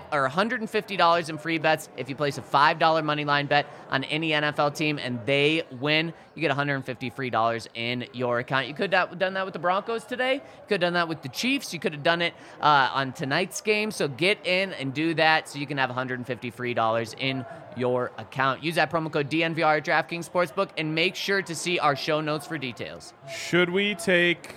$150 in free bets if you place a $5 money line bet on any NFL team and they win. You get $150 free dollars in your account. You could have done that with the Broncos today. You could have done that with the Chiefs. You could have done it on tonight's game. So get in and do that so you can have $150 free dollars in your account. Use that promo code DNVR at DraftKings Sportsbook and make sure to see our show notes for details. Should we take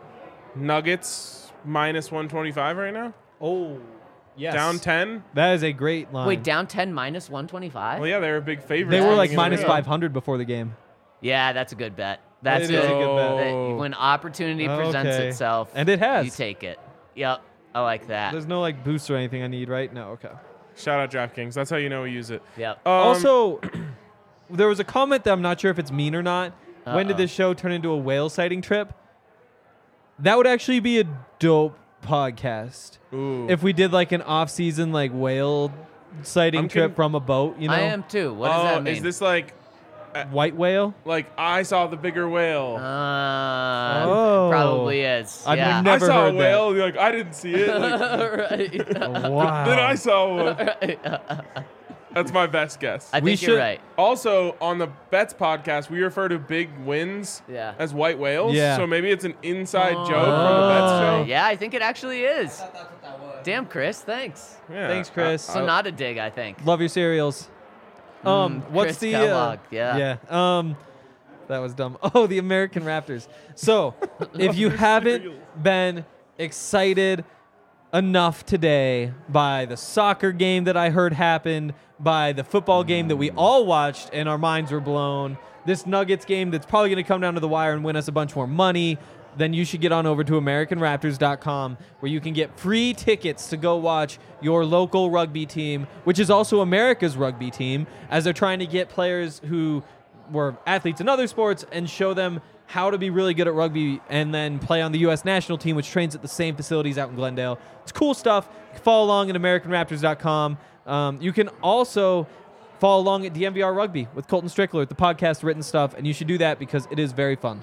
Nuggets minus 125 right now? Oh, yes. Down 10? That is a great line. Wait, down 10 minus 125? Well, yeah, they were a big favorite. They were like coming minus into the- 500 before the game. Yeah, that's a good bet. That's It is a good. good bet. When opportunity presents Okay. itself, And it has. you take it. Yep, I like that. There's no like boost or anything I need, right? No, okay. Shout out DraftKings. That's how you know we use it. Yep. Also, there was a comment that I'm not sure if it's mean or not. When did Uh-oh. this show turn into a whale sighting trip? That would actually be a dope podcast. Ooh. If we did like an off-season like whale sighting I'm trip con- from a boat, you know? I am too. What does that mean? Is this like White whale? I saw the bigger whale? Oh. Probably is. I've yeah. never I saw a heard that. whale. You're like, I didn't see it. Like, Right. Wow. then I saw one. That's my best guess. I We think you're should- right. Also, on the Bets podcast, we refer to big wins Yeah. as white whales. Yeah. So maybe it's an inside joke from the Bets show. Yeah, I think it actually is. That's what that was. Damn, Chris, thanks. Yeah. Thanks, Chris. So not a dig, I think. Love your cereals. What's Chris the Kellogg, yeah. That was dumb. Oh, the American Raptors. So, if you haven't been excited enough today by the soccer game that I heard happened, by the football game that we all watched and our minds were blown, this Nuggets game that's probably going to come down to the wire and win us a bunch more money, then you should get on over to AmericanRaptors.com where you can get free tickets to go watch your local rugby team, which is also America's rugby team, as they're trying to get players who were athletes in other sports and show them how to be really good at rugby and then play on the U.S. national team, which trains at the same facilities out in Glendale. It's cool stuff. You can follow along at AmericanRaptors.com. You can also follow along at DMVR Rugby with Colton Strickler, the podcast written stuff, and you should do that because it is very fun.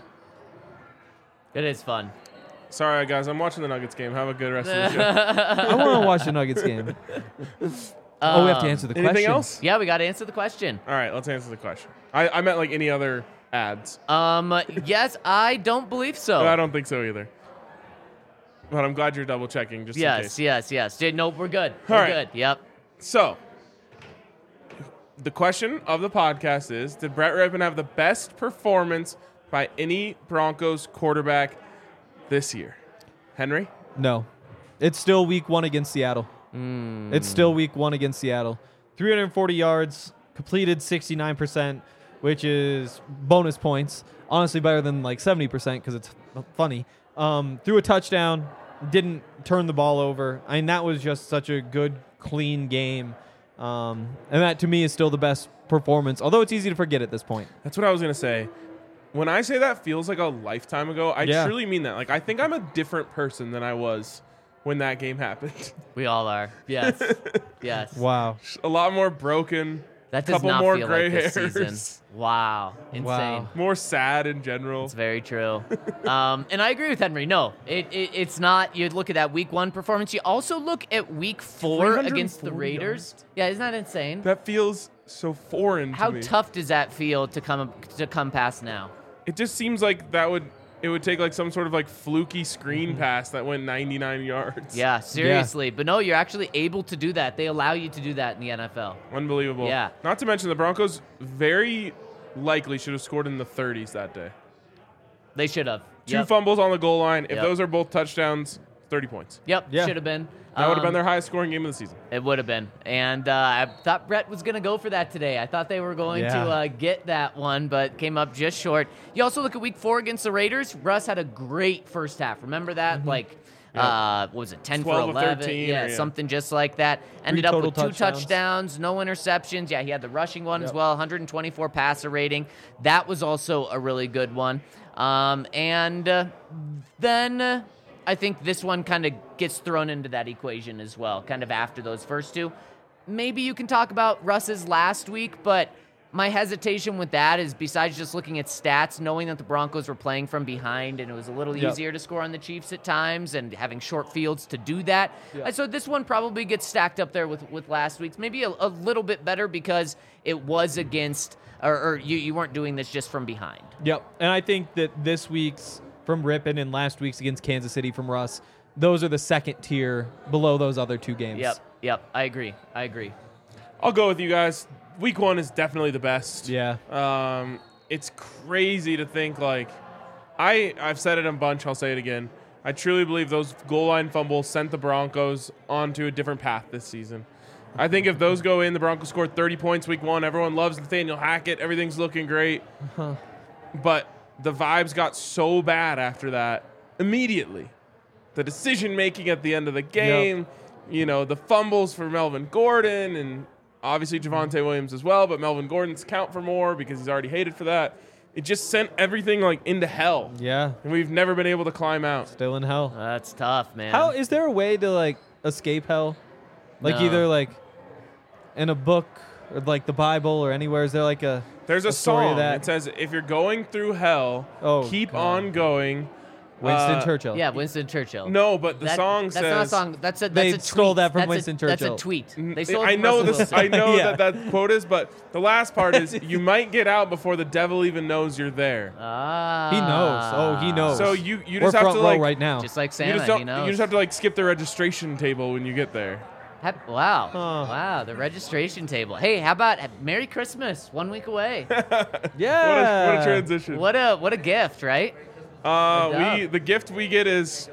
It is fun. Sorry, guys. I'm watching the Nuggets game. Have a good rest of the show. I want to watch the Nuggets game. Oh, we have to answer the Anything question. else? Yeah, we got to answer the question. All right, let's answer the question. I meant like any other ads. Yes, I don't believe so. But I don't think so either. But I'm glad you're double checking just in case. Yes. Nope, we're good. All We're right. good. Yep. So, the question of the podcast is, did Brett Rypien have the best performance by any Broncos quarterback this year? Henry? No. It's still week one against Seattle. It's still week one against Seattle. 340 yards, completed 69%, which is bonus points. Honestly, better than like 70% because it's funny. Threw a touchdown, didn't turn the ball over. I mean, that was just such a good, clean game. And that, to me, is still the best performance, although it's easy to forget at this point. That's what I was going to say. When I say that feels like a lifetime ago, I Yeah. truly mean that. Like, I think I'm a different person than I was when that game happened. We all are. Yes. Yes. Wow. A lot more broken, That does Couple not more feel gray like this hairs. season. Wow. Insane. Wow. More sad in general. It's very true. And I agree with Henry. No, it's not. You look at that week 1 performance. You also look at week 4 against the 340 Raiders. yards. Yeah, isn't that insane? That feels so foreign How to me. tough does that feel to come past now? It just seems like it would take like some sort of like fluky screen pass that went 99 yards. Yeah, seriously. But no, you're actually able to do that. They allow you to do that in the NFL. Unbelievable. Yeah. Not to mention the Broncos very likely should have scored in the 30s that day. They should have. Two fumbles on the goal line. If Yep. those are both touchdowns, 30 points. Yep, Yeah. should have been. That would have been their highest scoring game of the season. It would have been. And I thought Brett was going to go for that today. I thought they were going to get that one, but came up just short. You also look at week 4 against the Raiders. Russ had a great first half. Remember that? Like, what was it, 10 for 12 of 11? 13, Yeah, or, yeah. something just like that. Ended up with total 2 touchdowns, no interceptions. Yeah, he had the rushing one as well, 124 passer rating. That was also a really good one. Then I think this one kind of gets thrown into that equation as well, kind of after those first 2. Maybe you can talk about Russ's last week, but my hesitation with that is besides just looking at stats, knowing that the Broncos were playing from behind and it was a little easier to score on the Chiefs at times and having short fields to do that. So this one probably gets stacked up there with last week's. Maybe a little bit better because it was against, or you weren't doing this just from behind. Yep. And I think that this week's from Rippon and last week's against Kansas City from Russ, those are the second tier below those other 2 games. Yep. I agree. I'll go with you guys. Week 1 is definitely the best. Yeah. It's crazy to think like I've said it a bunch. I'll say it again. I truly believe those goal line fumbles sent the Broncos onto a different path this season. I think if those go in, the Broncos scored 30 points week 1. Everyone loves Nathaniel Hackett. Everything's looking great. But the vibes got so bad after that immediately. The decision making at the end of the game, the fumbles for Melvin Gordon and obviously Javonte Williams as well, but Melvin Gordon's count for more because he's already hated for that. It just sent everything like into hell. Yeah. And we've never been able to climb out. Still in hell. That's tough, man. How is there a way to like escape hell? Like No. either like in a book or like the Bible or anywhere? Is there like a There's a story song of that? that says, if you're going through hell, keep God. on going. Winston Churchill. Yeah, Winston Churchill. No, but the song that's says... not a song. That's a They tweet. stole that from That's Winston That's Churchill. a tweet. They stole it I from know Russell this. Wilson. I know Yeah. that quote is, but the last part is, you might get out before the devil even knows you're there. Ah. He knows. Oh, he knows. So you We're just have front to row like right now. Just like you Santa, just he don't. knows. You just have to like skip the registration table when you get there. Wow. Huh. Wow, the registration table. Hey, how about Merry Christmas? 1 week away. yeah. What a transition. what a gift, right? The gift we get is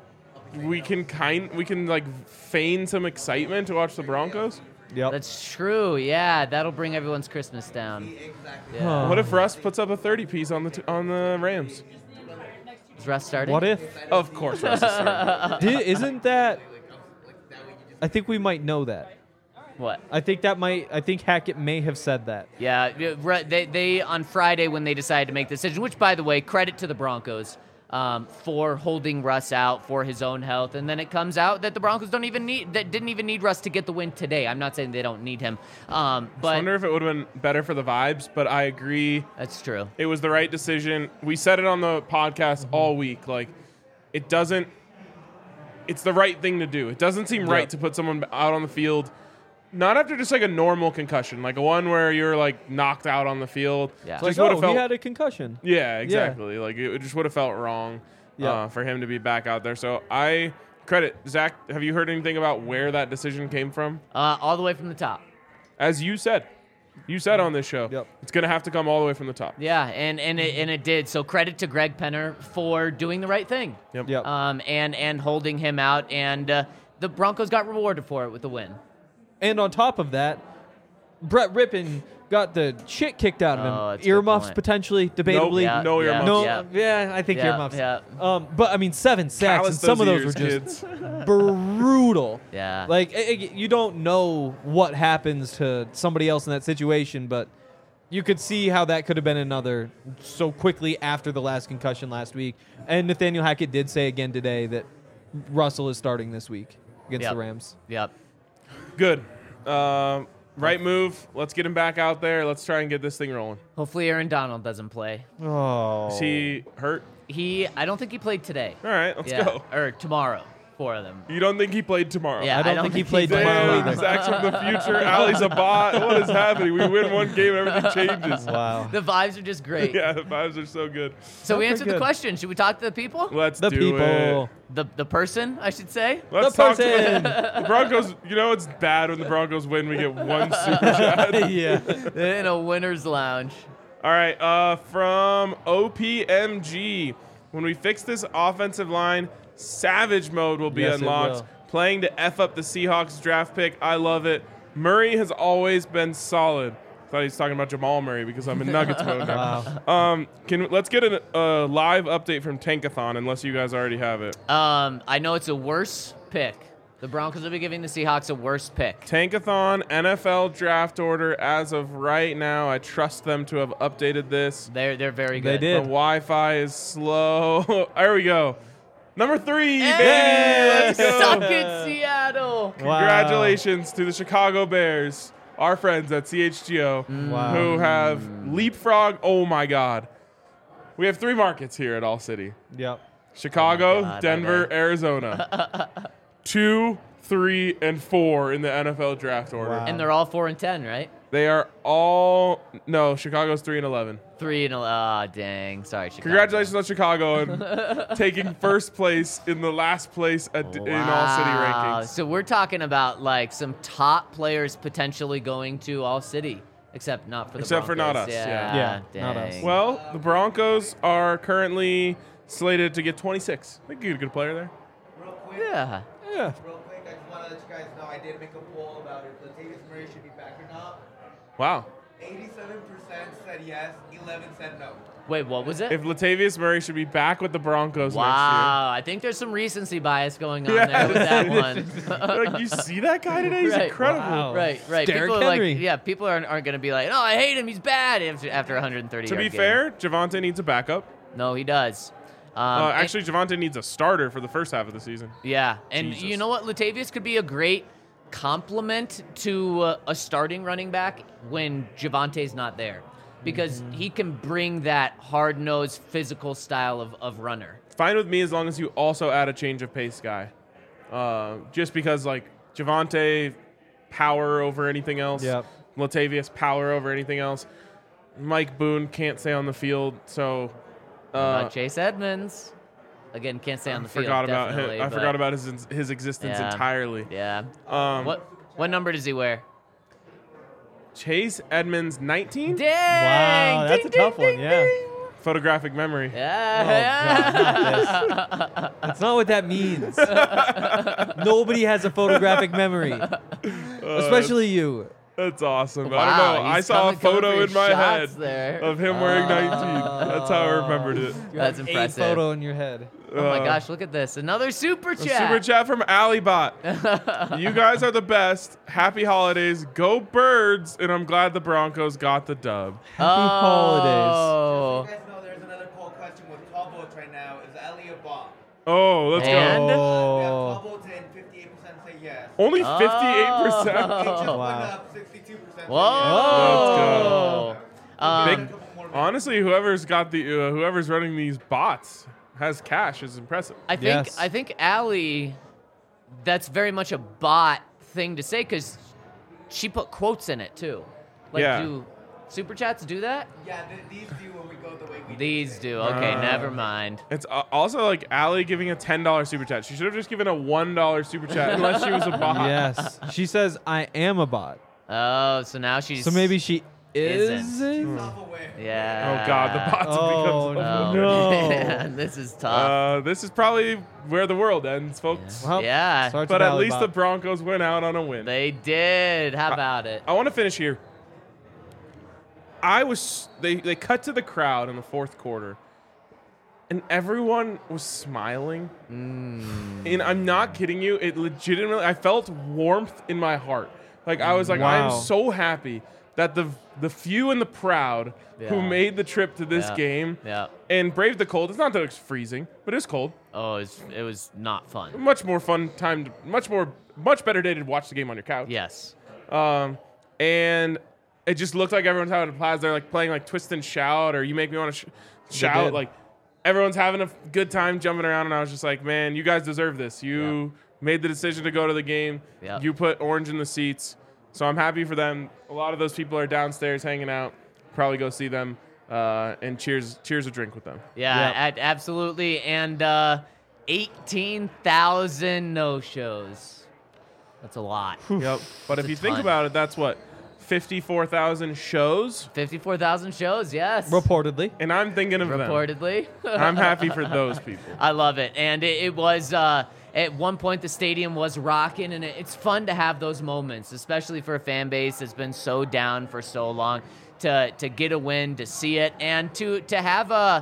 we can like feign some excitement to watch the Broncos. Yep. That's true. Yeah, that'll bring everyone's Christmas down. Exactly. Yeah. What if Russ puts up a 30 piece on the Rams? Is Russ starting? What if? Of course, Russ is starting. Isn't that? I think we might know that. What? I think Hackett may have said that. Yeah, they on Friday when they decided to make the decision, which, by the way, credit to the Broncos for holding Russ out for his own health, and then it comes out that the Broncos didn't even need Russ to get the win today. I'm not saying they don't need him, I but wonder if it would have been better for the vibes, but I agree. that's true. It was the right decision. We said it on the podcast all week. Like, it's the right thing to do. It doesn't seem right to put someone out on the field, not after just like a normal concussion, like a one where you're like knocked out on the field. Yeah. It's Just like, would've he felt, had a concussion. yeah, exactly. Like it just would have felt wrong for him to be back out there. So I credit Zach. Have you heard anything about where that decision came from? All the way from the top. As you said on this show, Yep. it's going to have to come all the way from the top. Yeah, and it did. So credit to Greg Penner for doing the right thing. Yep. Yep. And holding him out, and the Broncos got rewarded for it with the win. And on top of that, Brett Rippon got the shit kicked out Oh, of him. that's a good Earmuffs point. potentially, debatably. Yeah, no yeah, earmuffs. No, yeah. yeah, I think Yeah, earmuffs. yeah. But I mean, 7 sacks, Callous and some of those ears, were just kids. brutal. Yeah. Like you don't know what happens to somebody else in that situation, but you could see how that could have been another so quickly after the last concussion last week. And Nathaniel Hackett did say again today that Russell is starting this week against Yep. the Rams. Yep. Good. Right move. Let's get him back out there. Let's try and get this thing rolling. Hopefully Aaron Donald doesn't play. Oh. Is he hurt? I don't think he played today. All right, let's Yeah, go. or tomorrow, 4 of them. You don't think he played tomorrow? Yeah, I don't think he played played tomorrow Damn, either. Zach's from the future. Ali's a bot. What is happening? We win one game, everything changes. Wow. The vibes are just great. Yeah, the vibes are so good. So we Pretty answered the good. question. Should we talk to the people? Let's The do people. it. The person, I should say. Let's The talk to person. the Broncos. You know it's bad when the Broncos win. We get one super chat. Yeah. In a winner's lounge. All right, from OPMG. When we fix this offensive line, Savage mode will be Yes, it unlocked. will. Playing to F up the Seahawks draft pick. I love it. Murray has always been solid. Thought he was talking about Jamal Murray because I'm in Nuggets mode now. Wow. Let's get a live update from Tankathon, unless you guys already have it. I know it's a worse pick. The Broncos will be giving the Seahawks a worse pick. Tankathon NFL draft order as of right now. I trust them to have updated this. They're very They good. The did. Wi-Fi is slow. There we go. Number 3, Hey, baby. Let's go. Suck it, Seattle. Congratulations to the Chicago Bears, our friends at CHGO, Wow. who have leapfrog. Oh my God. We have 3 markets here at All City. Yep. Chicago, God, Denver, okay. Arizona. 2, 3, and 4 in the NFL draft order. Wow. And they're all 4 and 10, right? They are all Chicago's 3 and 11. 3 and 11. Dang. Sorry, Chicago. Congratulations on Chicago and taking first place in the last place in All City Wow. rankings. So we're talking about like some top players potentially going to All City, except not for the Except for not Broncos. us, Yeah, Yeah, not us. dang. Well, the Broncos are currently slated to get 26. I think you get a good player there. Real quick, Yeah. Yeah. real quick, I just want to let you guys know I did make a poll about if Latavius Murray should be back or not. Wow. 87% said yes, 11 said no. Wait, what was it? If Latavius Murray should be back with the Broncos Wow, I think there's some recency bias going on Yeah. there with that one. next year. Like, you see that guy today? He's Right. incredible. Wow. Right. Derrick People are Henry. people aren't going to be like, oh, I hate him, he's bad after 130 To be yard game. fair, Javonte needs a backup. No, he does. Actually, Javonte needs a starter for the first half of the season. Yeah, and Jesus. you know what? Latavius could be a great complement to a starting running back when Javonte's not there, because he can bring that hard-nosed, physical style of runner. Fine with me as long as you also add a change of pace guy. Just because, like, Javonte, power over anything else. Yep. Latavius, power over anything else. Mike Boone can't stay on the field, so Chase Edmonds, again, can't stay on the field. forgot about him. definitely, I but- forgot about his existence Yeah. entirely. Yeah. Um, What number does he wear? Chase Edmonds, 19? Dang! Wow, that's Ding, a tough ding, one, ding, yeah. ding. Photographic memory. Yeah. That's not what that means. Nobody has a photographic memory, especially you. That's awesome. I Wow, don't know. I he's saw a coming for photo your in my head shots there. of him wearing 19. That's how I remembered it. That's A impressive. photo in your head. Oh my gosh, look at this. Another super A chat. super chat from Alibot. You guys are the best. Happy holidays. Go Birds. And I'm glad the Broncos got the dub. Happy holidays. Oh. You guys know there's another poll question with 12 votes right now. Is Ali a bot? Oh, let's And? go. We have Oh. 12 votes in, 58% say yes. Only Oh. 58%. It just went wow. up, 62% say Whoa. yes. Big- Honestly, whoever's running these bots has cash is impressive. Yes. I think Allie, that's very much a bot thing to say because she put quotes in it too. Like, Yeah. do super chats do that? Yeah, these do when we go the way we These do. Okay, never mind. It's also like Allie giving a $10 super chat. She should have just given a $1 super chat unless she was a bot. Yes. She says, I am a bot. Oh, so now she's. So maybe she Isn't. isn't. Self-aware. Yeah. Oh God, the bots have become Oh, so no. Man, this is tough. This is probably where the world ends, folks. Well, Yeah. starts But with at least the Alibot. Broncos went out on a win. They did. How about it? I want to finish here. They cut to the crowd in the fourth quarter, and everyone was smiling. And I'm not kidding you. It legitimately, I felt warmth in my heart. Like I was like, I Wow. am so happy that the few and the proud who Yeah. made the trip to this Yeah. game Yeah. and braved the cold. It's not that it's freezing, but it's cold. Oh, it was not fun. Much more fun time. Much better day to watch the game on your couch. Yes. and it just looked like everyone's having a blast. They're like playing like Twist and Shout or You Make Me Want to Shout. did. Like everyone's having a good time jumping around, and I was just like, man, you guys deserve this. You made the decision to go to the game. Yep. You put orange in the seats, so I'm happy for them. A lot of those people are downstairs hanging out. Probably go see them and cheers a drink with them. Yeah, absolutely. And 18,000 no-shows. That's a lot. Yep. But if a you think ton. about it, that's what 54,000 shows, 54,000 shows, yes. Reportedly. and I'm thinking of them. Reportedly. I'm happy for those people. I love it. And it was, at one point, the stadium was rocking, and it's fun to have those moments, especially for a fan base that's been so down for so long, to get a win, to see it, and to have a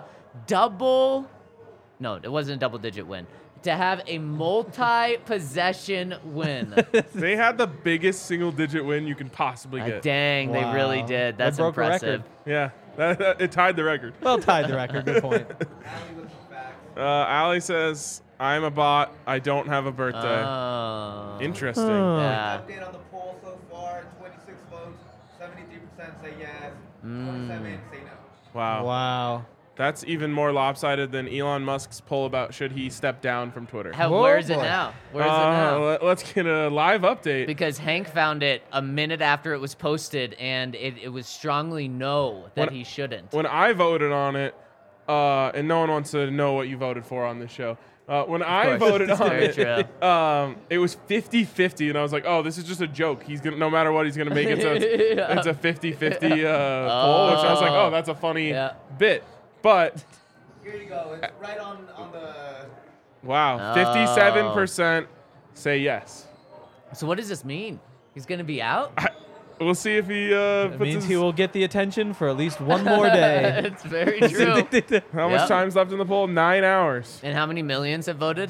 no, it wasn't a double-digit win. To have a multi-possession win. They had the biggest single-digit win you can possibly get. Dang, they really Wow. did. They That's broke a impressive. record. Yeah, it tied the record. Well tied the record. Good point. Allie with some facts. Allie says, I'm a bot. I don't have a birthday. Oh. Interesting. Yeah. Update on the poll so far: 26 votes, 73% say yes, 27 say no. Wow. Wow. That's even more lopsided than Elon Musk's poll about should he step down from Twitter. Whoa, Where is it boy. now? Where is it now? Let's get a live update. Because Hank found it a minute after it was posted, and it was strongly no that When- he shouldn't. When I voted on it, and no one wants to know what you voted for on this show. When I course. voted It's on very it, true. it was 50-50, and I was like, oh, this is just a joke. He's gonna, no matter what, he's gonna make it so it's a 50-50 poll, which I was like, oh, that's a funny Yeah. bit. But Here you go. It's right on the. wow, Oh. 57% say yes. So what does this mean? He's going to be out? We'll see if he It puts means his, he will get the attention for at least one more day. It's very true. how much Yep. time's left in the poll? 9 hours. And how many millions have voted?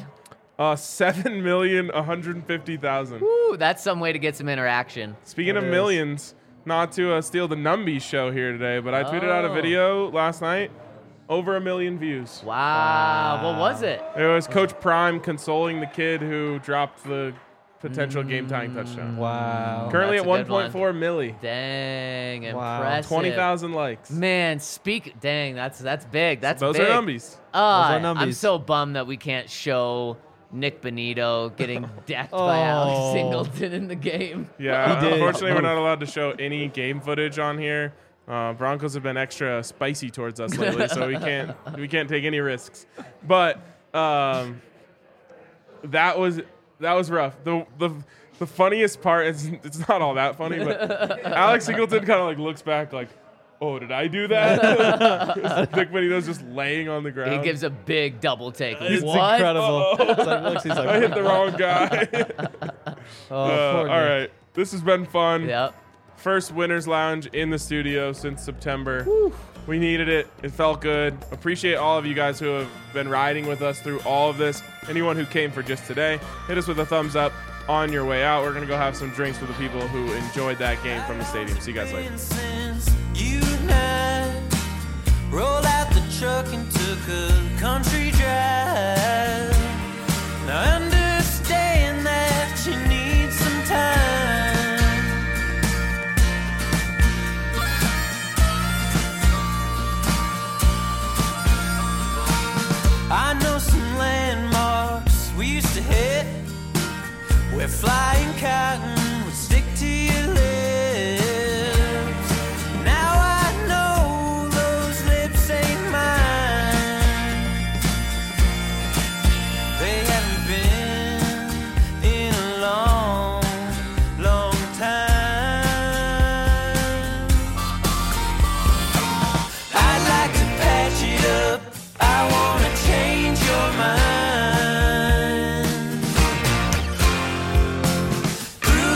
7,150,000. Woo, that's some way to get some interaction. Speaking That of is. millions, not to steal the Numbies show here today, but I tweeted out a Oh. video last night, over 1 million views. Wow. What was it? It was Coach Prime consoling the kid who dropped the potential game-tying touchdown. Wow. Currently That's at a good one. 1.4 milli. Dang, Wow. impressive. 20,000 likes. Man, dang, that's big. That's Those big. are Numbies. are I'm numbies. so bummed that we can't show Nick Benito getting decked by Oh. Alex Singleton in the game. Yeah, He did. unfortunately, we're not allowed to show any game footage on here. Broncos have been extra spicy towards us lately, so we can't take any risks. But that was rough. The funniest part is it's not all that funny, but Alex Singleton kind of like looks back like, oh, did I do that? Nick Benito's just laying on the ground. He gives a big double take. It's What? incredible. It's like, looks, he's like, I hit the wrong guy. Oh, poor all Nick. right, this has been fun. Yep. First Winners Lounge in the studio since September. We needed it. It felt good. Appreciate all of you guys who have been riding with us through all of this. Anyone who came for just today, hit us with a thumbs up on your way out. We're going to go have some drinks with the people who enjoyed that game from the stadium. See you guys later. Since you and I rolled out the truck and took a country drive. Now I understand that you need some time. I know some landmarks we used to hit where flying cotton would stick to your lips. Now I know those lips ain't mine. They haven't been in a long, long time. I'd like to patch it up. I wanna change your mind. Through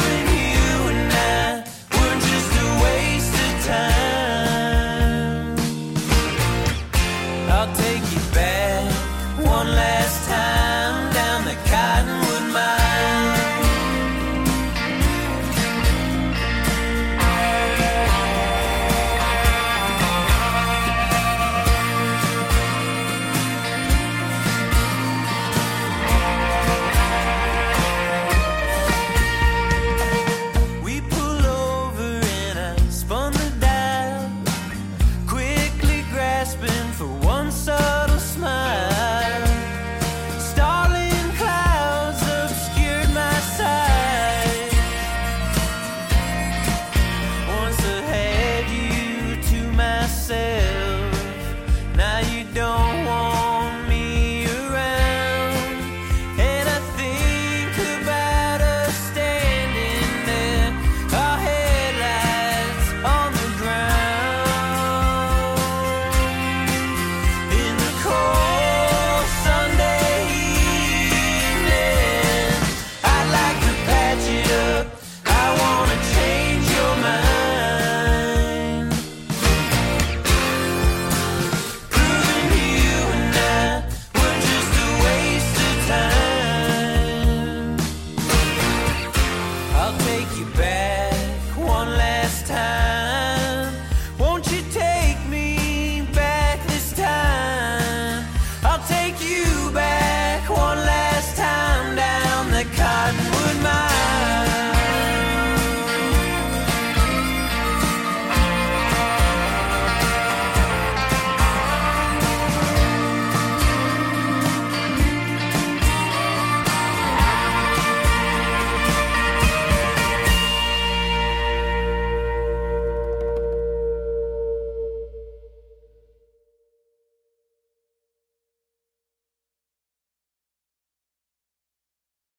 you back.